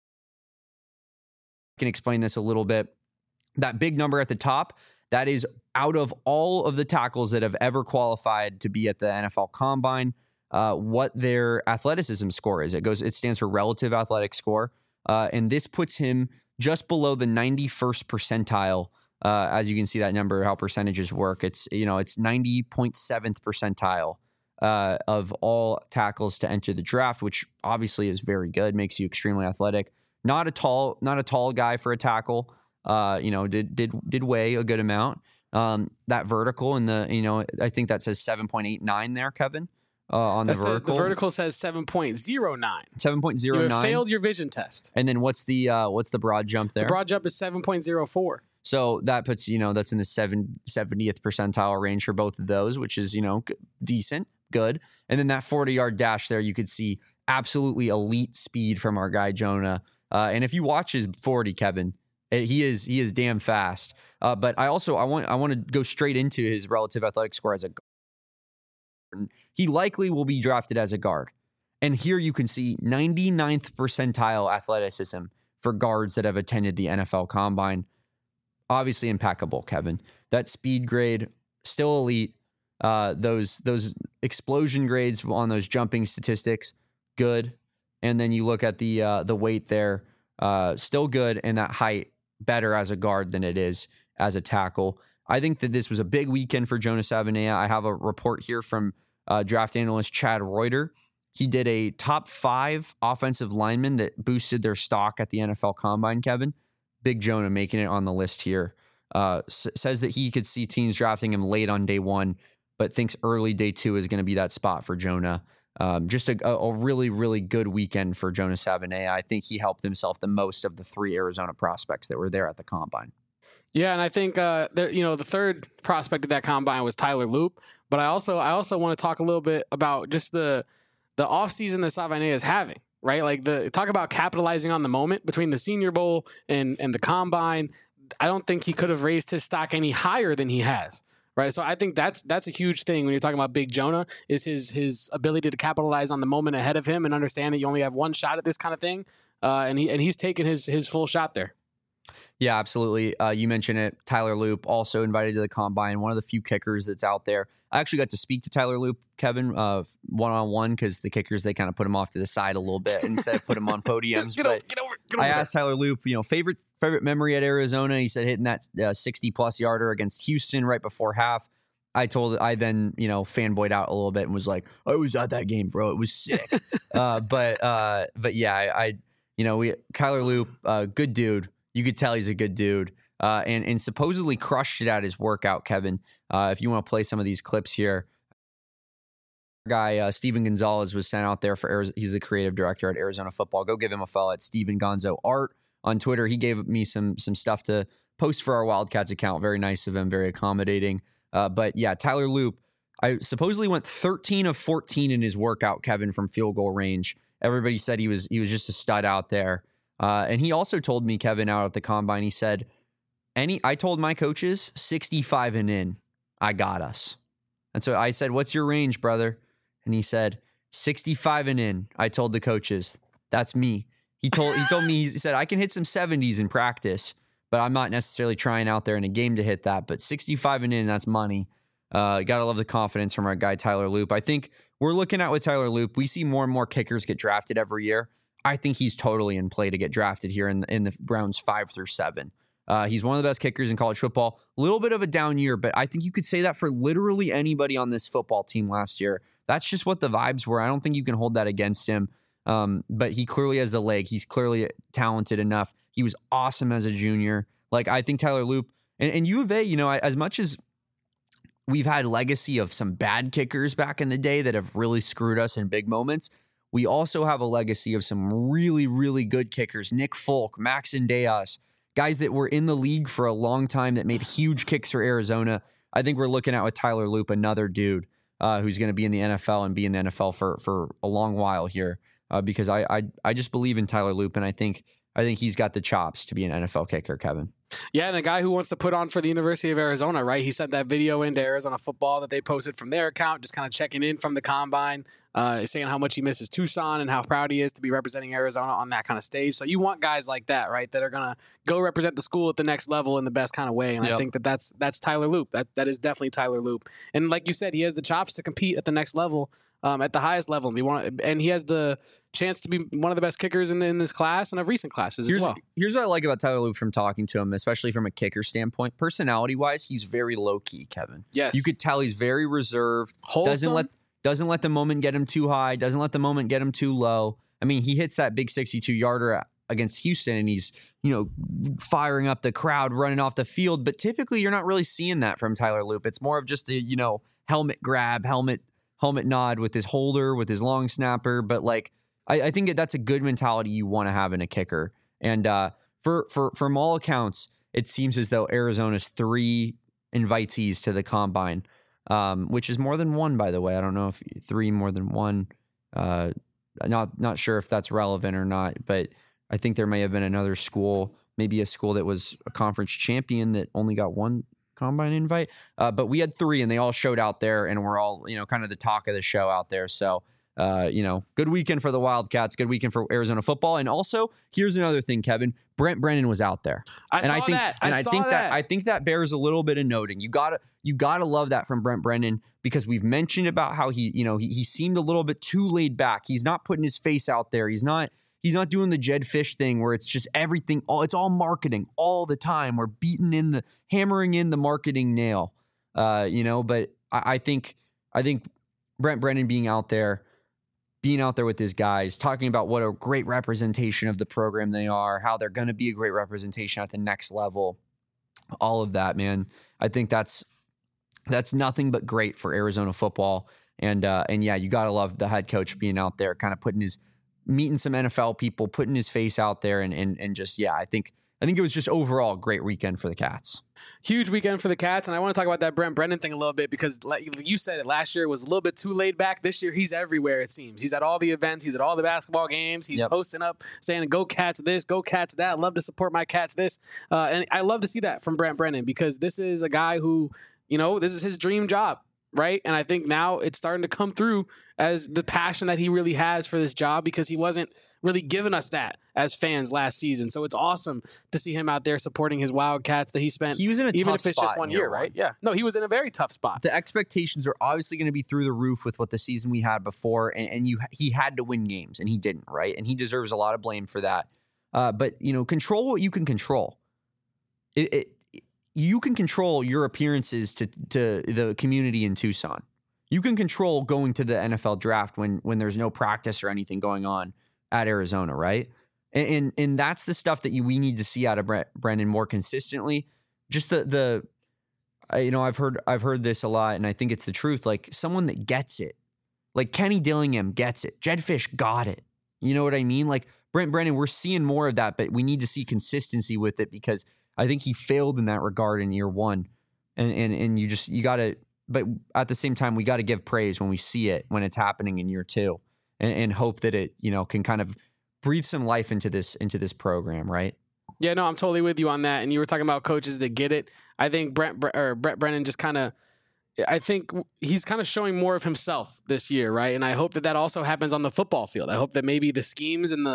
I can explain this a little bit. That big number at the top, that is out of all of the tackles that have ever qualified to be at the NFL Combine, what their athleticism score is. It stands for relative athletic score. And this puts him just below the 91st percentile. As you can see that number, how percentages work. It's 90.7th percentile of all tackles to enter the draft, which obviously is very good, makes you extremely athletic. Not a tall guy for a tackle. Did weigh a good amount. That vertical and I think that says 7.89 there, Kevin. On the vertical. The vertical says 7.09. 7.09. You have failed your vision test. And then what's the broad jump there? The broad jump is 7.04. So that puts, that's in the 70th percentile range for both of those, which is, decent, good. And then that 40-yard dash there, you could see absolutely elite speed from our guy, Jonah. And if you watch his 40, Kevin, he is damn fast. But I want to go straight into his relative athletic score as a guard. He likely will be drafted as a guard. And here you can see 99th percentile athleticism for guards that have attended the NFL Combine. obviously impeccable, Kevin. That speed grade, still elite. Those explosion grades on those jumping statistics, good. And then you look at the weight there, still good, and that height better as a guard than it is as a tackle. I think that this was a big weekend for Jonas Avenea. I have a report here from draft analyst Chad Reuter. He did a top 5 offensive linemen that boosted their stock at the NFL Combine, Kevin. Big Jonah making it on the list here. Says that he could see teams drafting him late on day 1, but thinks early day 2 is going to be that spot for Jonah. Just a really, really good weekend for Jonas Avenea. I think he helped himself the most of the 3 Arizona prospects that were there at the Combine. Yeah, and I think the third prospect of that Combine was Tyler Loop. But I also want to talk a little bit about just the offseason that Avenea is having, right? Like talk about capitalizing on the moment between the Senior Bowl and the Combine. I don't think he could have raised his stock any higher than he has. Right. So I think that's a huge thing when you're talking about Big Jonah, is his ability to capitalize on the moment ahead of him and understand that you only have one shot at this kind of thing. And he's taken his full shot there. Yeah, absolutely. You mentioned it. Tyler Loop also invited to the Combine, one of the few kickers that's out there. I actually got to speak to Tyler Loop, Kevin, one-on-one, because the kickers, they kind of put him off to the side a little bit instead of put him on podiums. Get over I asked Tyler Loop, favorite memory at Arizona. He said hitting that 60-plus yarder against Houston right before half. I then fanboyed out a little bit and was like, I was at that game, bro. It was sick. But yeah, Tyler Loop, good dude. You could tell he's a good dude, and supposedly crushed it at his workout, Kevin. If you want to play some of these clips here, guy Steven Gonzalez was sent out there for Arizona. He's the creative director at Arizona Football. Go give him a follow at Steven Gonzo Art on Twitter. He gave me some stuff to post for our Wildcats account. Very nice of him, very accommodating. But yeah, Tyler Loop, I supposedly went 13 of 14 in his workout, Kevin, from field goal range. Everybody said he was just a stud out there. And he also told me, Kevin, out at the Combine, he said, I told my coaches 65 and in, I got us. And so I said, what's your range, brother? And he said, 65 and in. I told the coaches, that's me. He told me, he said, I can hit some 70s in practice, but I'm not necessarily trying out there in a game to hit that. But 65 and in, that's money. Got to love the confidence from our guy, Tyler Loop. I think we're looking at with Tyler Loop, we see more and more kickers get drafted every year. I think he's totally in play to get drafted here in the rounds 5 through 7. He's one of the best kickers in college football. A little bit of a down year, but I think you could say that for literally anybody on this football team last year. That's just what the vibes were. I don't think you can hold that against him. But he clearly has the leg. He's clearly talented enough. He was awesome as a junior. Like, I think Tyler Loop and U of A, as much as we've had legacy of some bad kickers back in the day that have really screwed us in big moments, we also have a legacy of some really, really good kickers. Nick Folk, Max Indeas, guys that were in the league for a long time that made huge kicks for Arizona. I think we're looking at with Tyler Loop, another dude who's going to be in the NFL and be in the NFL for a long while here because I just believe in Tyler Loop, and I think he's got the chops to be an NFL kicker, Kevin. Yeah, and a guy who wants to put on for the University of Arizona, right? He sent that video into Arizona Football that they posted from their account, just kind of checking in from the Combine, saying how much he misses Tucson and how proud he is to be representing Arizona on that kind of stage. So you want guys like that, right, that are going to go represent the school at the next level in the best kind of way. And I think that's Tyler Loop. That is definitely Tyler Loop. And like you said, he has the chops to compete at the next level. At the highest level, and he has the chance to be one of the best kickers in this class and of recent classes as well. Here's what I like about Tyler Loop from talking to him, especially from a kicker standpoint. Personality-wise, he's very low-key, Kevin. Yes. You could tell he's very reserved. Wholesome. Doesn't let the moment get him too high. Doesn't let the moment get him too low. I mean, he hits that big 62-yarder against Houston, and he's, firing up the crowd, running off the field. But typically, you're not really seeing that from Tyler Loop. It's more of just a, helmet grab, helmet nod with his holder, with his long snapper. But I think that's a good mentality you want to have in a kicker. And from all accounts, it seems as though Arizona's 3 invitees to the Combine, which is more than 1, by the way. I don't know if 3 more than 1. Not sure if that's relevant or not, but I think there may have been another school, maybe a school that was a conference champion that only got 1 Combine invite, but we had 3 and they all showed out there and we're all, kind of the talk of the show out there. So good weekend for the Wildcats, good weekend for Arizona football. And also, here's another thing, Kevin. Brent Brennan was out there. I think that bears a little bit of noting. You gotta love that from Brent Brennan, because we've mentioned about how he seemed a little bit too laid back. He's not putting his face out there. He's not doing the Jed Fish thing where it's just everything. It's all marketing all the time. We're hammering in the marketing nail. But I think Brent Brennan being out there with his guys, talking about what a great representation of the program they are, how they're going to be a great representation at the next level, all of that, man. I think that's nothing but great for Arizona football. And yeah, you got to love the head coach being out there, kind of meeting some NFL people, putting his face out there, and just, yeah, I think it was just overall a great weekend for the Cats. Huge weekend for the Cats, and I want to talk about that Brent Brennan thing a little bit, because like you said it, last year was a little bit too laid back. This year, he's everywhere, it seems. He's at all the events. He's at all the basketball games. He's posting up, saying, go Cats this, go Cats that. Love to support my Cats this. And I love to see that from Brent Brennan, because this is a guy who, this is his dream job, right? And I think now it's starting to come through as the passion that he really has for this job, because he wasn't really giving us that as fans last season. So it's awesome to see him out there supporting his Wildcats that he spent. He was in a even tough if it's spot just 1 year, right? Yeah. No, he was in a very tough spot. The expectations are obviously going to be through the roof with what the season we had before, and he had to win games, and he didn't, right? And he deserves a lot of blame for that. But control what you can control. You can control your appearances to the community in Tucson. You can control going to the NFL draft when there's no practice or anything going on at Arizona, right? And that's the stuff that we need to see out of Brennan more consistently. Just I've heard this a lot, and I think it's the truth. Like, someone that gets it, like Kenny Dillingham gets it. Jed Fish got it. You know what I mean? Like Brent Brennan, we're seeing more of that, but we need to see consistency with it, because I think he failed in that regard in year one. And you got to, but at the same time, we got to give praise when we see it, when it's happening in year two, and hope that it, can kind of breathe some life into this program, right? Yeah, no, I'm totally with you on that. And you were talking about coaches that get it. I think Brent Brennan just I think he's kind of showing more of himself this year, right? And I hope that also happens on the football field. I hope that maybe the schemes and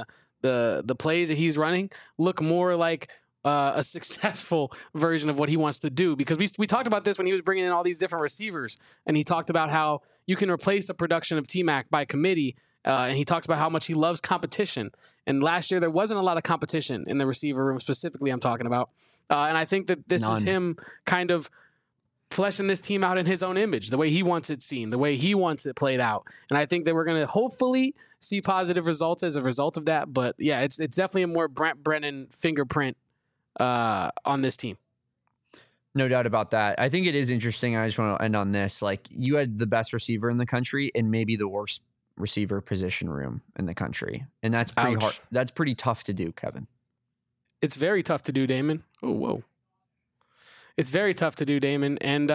the plays that he's running look more like a successful version of what he wants to do, because we talked about this when he was bringing in all these different receivers, and he talked about how you can replace the production of T-Mac by committee, and he talks about how much he loves competition. And last year there wasn't a lot of competition in the receiver room, specifically I'm talking about, and I think that this is him kind of fleshing this team out in his own image, the way he wants it seen, the way he wants it played out. And I think that we're going to hopefully see positive results as a result of that. But yeah, it's definitely a more Brent Brennan fingerprint on this team. No doubt about that. I think it is interesting. I just want to end on this. Like, you had the best receiver in the country and maybe the worst receiver position room in the country. And that's pretty hard. That's pretty tough to do, Kevin. It's very tough to do, Damon. Oh, whoa. It's very tough to do, Damon. And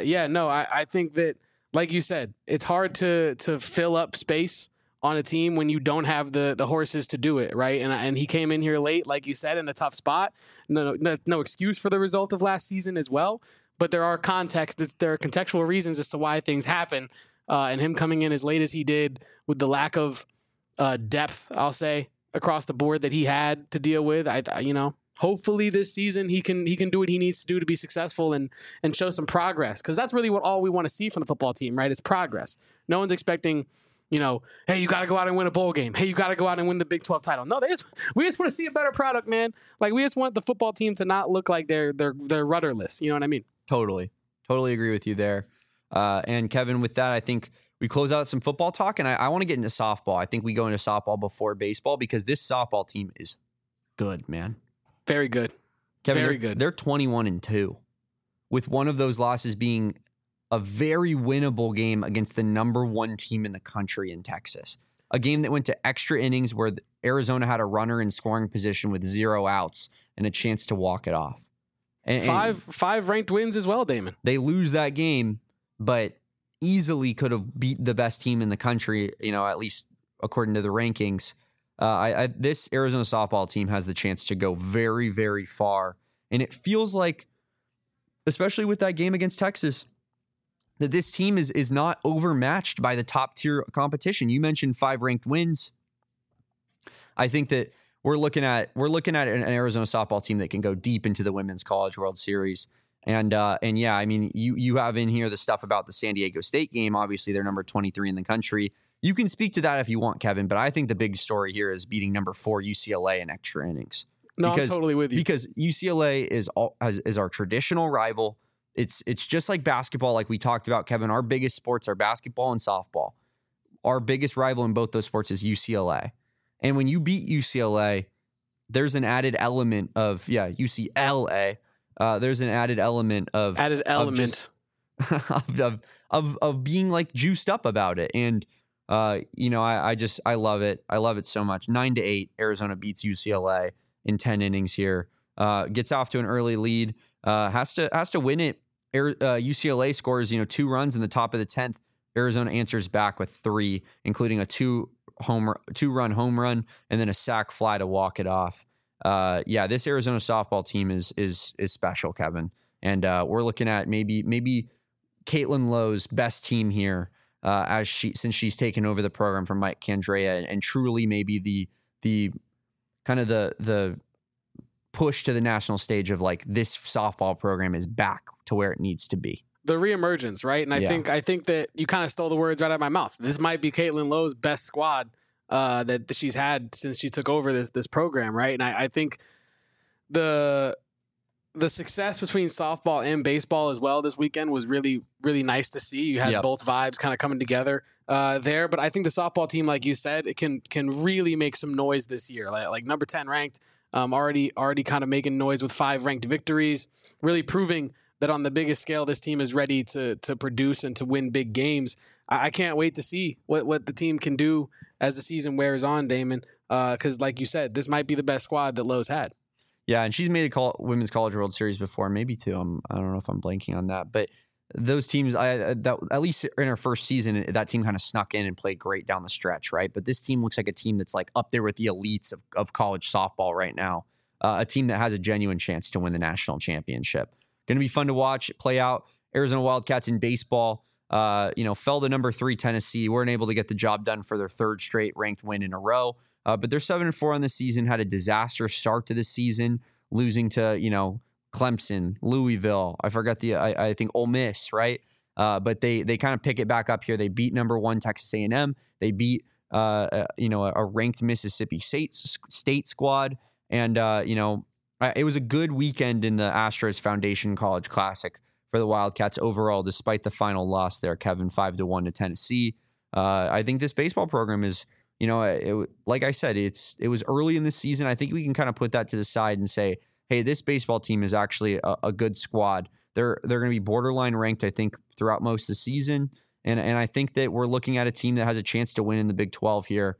I think that, like you said, it's hard to fill up space on a team when you don't have the horses to do it, right? And he came in here late, like you said, in a tough spot. No excuse for the result of last season as well, but there are contextual reasons as to why things happen. And him coming in as late as he did, with the lack of depth, I'll say, across the board that he had to deal with, hopefully this season he can do what he needs to do to be successful and show some progress, because that's really all we want to see from the football team, right? Is progress. No one's expecting, hey, you got to go out and win a bowl game. Hey, you got to go out and win the Big 12 title. No, we just want to see a better product, man. Like, we just want the football team to not look like they're rudderless. You know what I mean? Totally agree with you there. And Kevin, with that, I think we close out some football talk, and I want to get into softball. I think we go into softball before baseball, because this softball team is good, man. Very good. Kevin, very good. They're 21-2, with one of those losses being a very winnable game against the number one team in the country in Texas. A game that went to extra innings where Arizona had a runner in scoring position with 0 outs and a chance to walk it off. And five ranked wins as well, Damon. They lose that game, but easily could have beat the best team in the country, at least according to the rankings. This Arizona softball team has the chance to go very, very far. And it feels like, especially with that game against Texas, that this team is not overmatched by the top tier competition. You mentioned 5 ranked wins. I think that we're looking at an Arizona softball team that can go deep into the Women's College World Series. And yeah, I mean, you have in here the stuff about the San Diego State game. Obviously, they're number 23 in the country. You can speak to that if you want, Kevin, but I think the big story here is beating number 4 UCLA in extra innings. No, I'm totally with you. Because UCLA is our traditional rival. It's just like basketball, like we talked about, Kevin. Our biggest sports are basketball and softball. Our biggest rival in both those sports is UCLA. And when you beat UCLA, there's an added element of, UCLA. There's an added element of of being like juiced up about it. And I love it. I love it so much. 9-8, Arizona beats UCLA in 10 innings here. Gets off to an early lead. Has to win it. UCLA scores 2 runs in the top of the 10th. Arizona answers back with 3, including a 2-run home run and then a sac fly to walk it off. This Arizona softball team is special, Kevin. And we're looking at maybe Caitlin Lowe's best team here since she's taken over the program from Mike Candrea, and truly maybe the kind of the push to the national stage of like this softball program is back to where it needs to be. The reemergence, right? And I think that you kind of stole the words right out of my mouth. This might be Caitlin Lowe's best squad that she's had since she took over this program, right? And I think the success between softball and baseball as well this weekend was really, really nice to see. You had both vibes kind of coming together there. But I think the softball team, like you said, it can really make some noise this year. Like number 10 ranked, already kind of making noise with 5 ranked victories, really proving that on the biggest scale, this team is ready to produce and to win big games. I can't wait to see what the team can do as the season wears on, Damon, because like you said, this might be the best squad that Lowe's had. Yeah, and she's made a Women's College World Series before, maybe 2. I don't know if I'm blanking on that, but those teams, at least in her first season, that team kind of snuck in and played great down the stretch, right? But this team looks like a team that's like up there with the elites of college softball right now, a team that has a genuine chance to win the national championship. Going to be fun to watch play out. Arizona Wildcats in baseball, fell to number 3 Tennessee. Weren't able to get the job done for their 3rd straight ranked win in a row. But they're 7-4 on the season. Had a disaster start to the season, losing to Clemson, Louisville. I forgot I think Ole Miss, right? But they kind of pick it back up here. They beat number 1 Texas A&M. They beat a ranked Mississippi State squad, and it was a good weekend in the Astros Foundation College Classic for the Wildcats overall, despite the final loss there, Kevin, 5-1 to Tennessee. I think this baseball program is, like I said, it was early in the season. I think we can kind of put that to the side and say, hey, this baseball team is actually a good squad. They're going to be borderline ranked, I think, throughout most of the season. And I think that we're looking at a team that has a chance to win in the Big 12 here.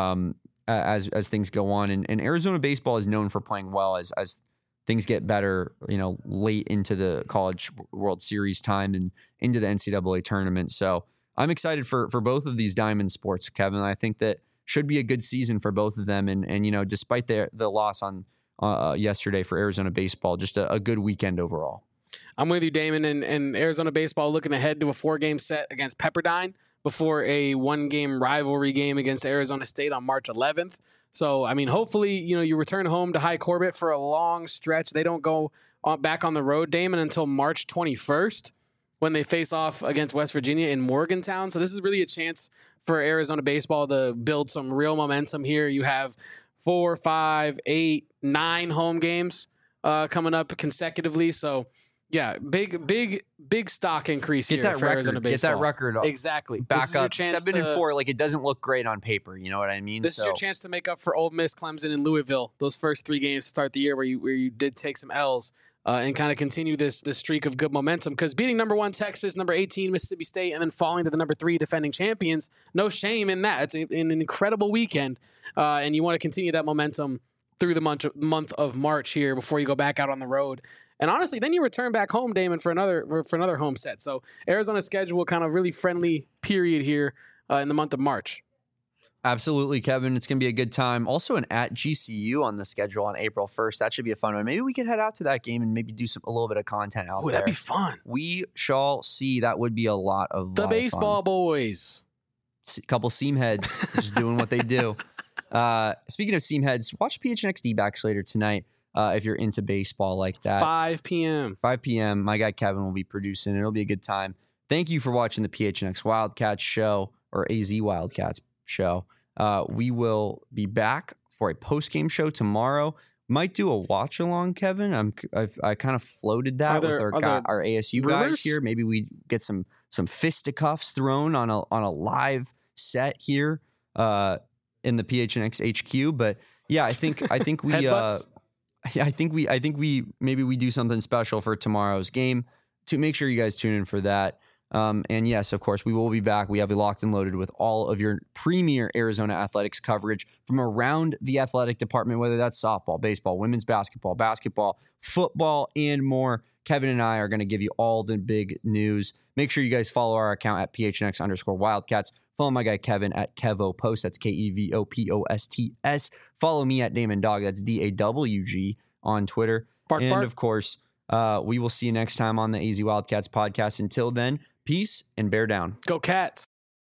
As things go on. And Arizona baseball is known for playing well as things get better, late into the College World Series time and into the NCAA tournament. So I'm excited for both of these diamond sports, Kevin. I think that should be a good season for both of them. And despite the loss on yesterday for Arizona baseball, just a good weekend overall. I'm with you, Damon, and Arizona baseball looking ahead to a 4-game set against Pepperdine before a 1-game rivalry game against Arizona State on March 11th. So, I mean, hopefully, you return home to High Corbett for a long stretch. They don't go back on the road, Damon, until March 21st when they face off against West Virginia in Morgantown. So this is really a chance for Arizona baseball to build some real momentum here. You have 4, 5, 8, 9 home games coming up consecutively. So, yeah, big stock increase here for Arizona baseball. Get that record exactly back up 7-4. Like, it doesn't look great on paper. You know what I mean? This is your chance to make up for Ole Miss, Clemson, and Louisville. Those first 3 games to start the year where you did take some L's and kind of continue this streak of good momentum. Because beating number 1 Texas, number 18 Mississippi State, and then falling to the number 3 defending champions, no shame in that. It's an incredible weekend, and you want to continue that momentum through the month of March here before you go back out on the road. And honestly, then you return back home, Damon, for another home set. So Arizona's schedule kind of really friendly period here in the month of March. Absolutely, Kevin. It's going to be a good time. Also, an at GCU on the schedule on April 1st. That should be a fun one. Maybe we could head out to that game and maybe do a little bit of content out there. That'd be fun. We shall see. That would be a lot of the baseball boys. A couple seam heads just doing what they do. Speaking of seam heads, watch PHNX D-backs later tonight if you're into baseball like that. 5 p.m. 5 p.m. My guy Kevin will be producing. It'll be a good time. Thank you for watching the PHNX Wildcats show, or AZ Wildcats show. We will be back for a post-game show tomorrow. Might do a watch-along, Kevin. I kind of floated that with our ASU guys here. Maybe we get some fisticuffs thrown on a live set here in the PHNX HQ. But yeah, I think we I think we maybe do something special for tomorrow's game. To make sure you guys tune in for that. And yes, of course, we will be back. We have you locked and loaded with all of your premier Arizona athletics coverage from around the athletic department, whether that's softball, baseball, women's basketball, football, and more. Kevin and I are going to give you all the big news. Make sure you guys follow our account at PHNX_Wildcats. Follow my guy Kevin at KevoPost. That's KEVOPOSTS. Follow me at Damon Dog. That's DAWG on Twitter. Bark. Of course, we will see you next time on the AZ Wildcats podcast. Until then, peace and bear down. Go Cats.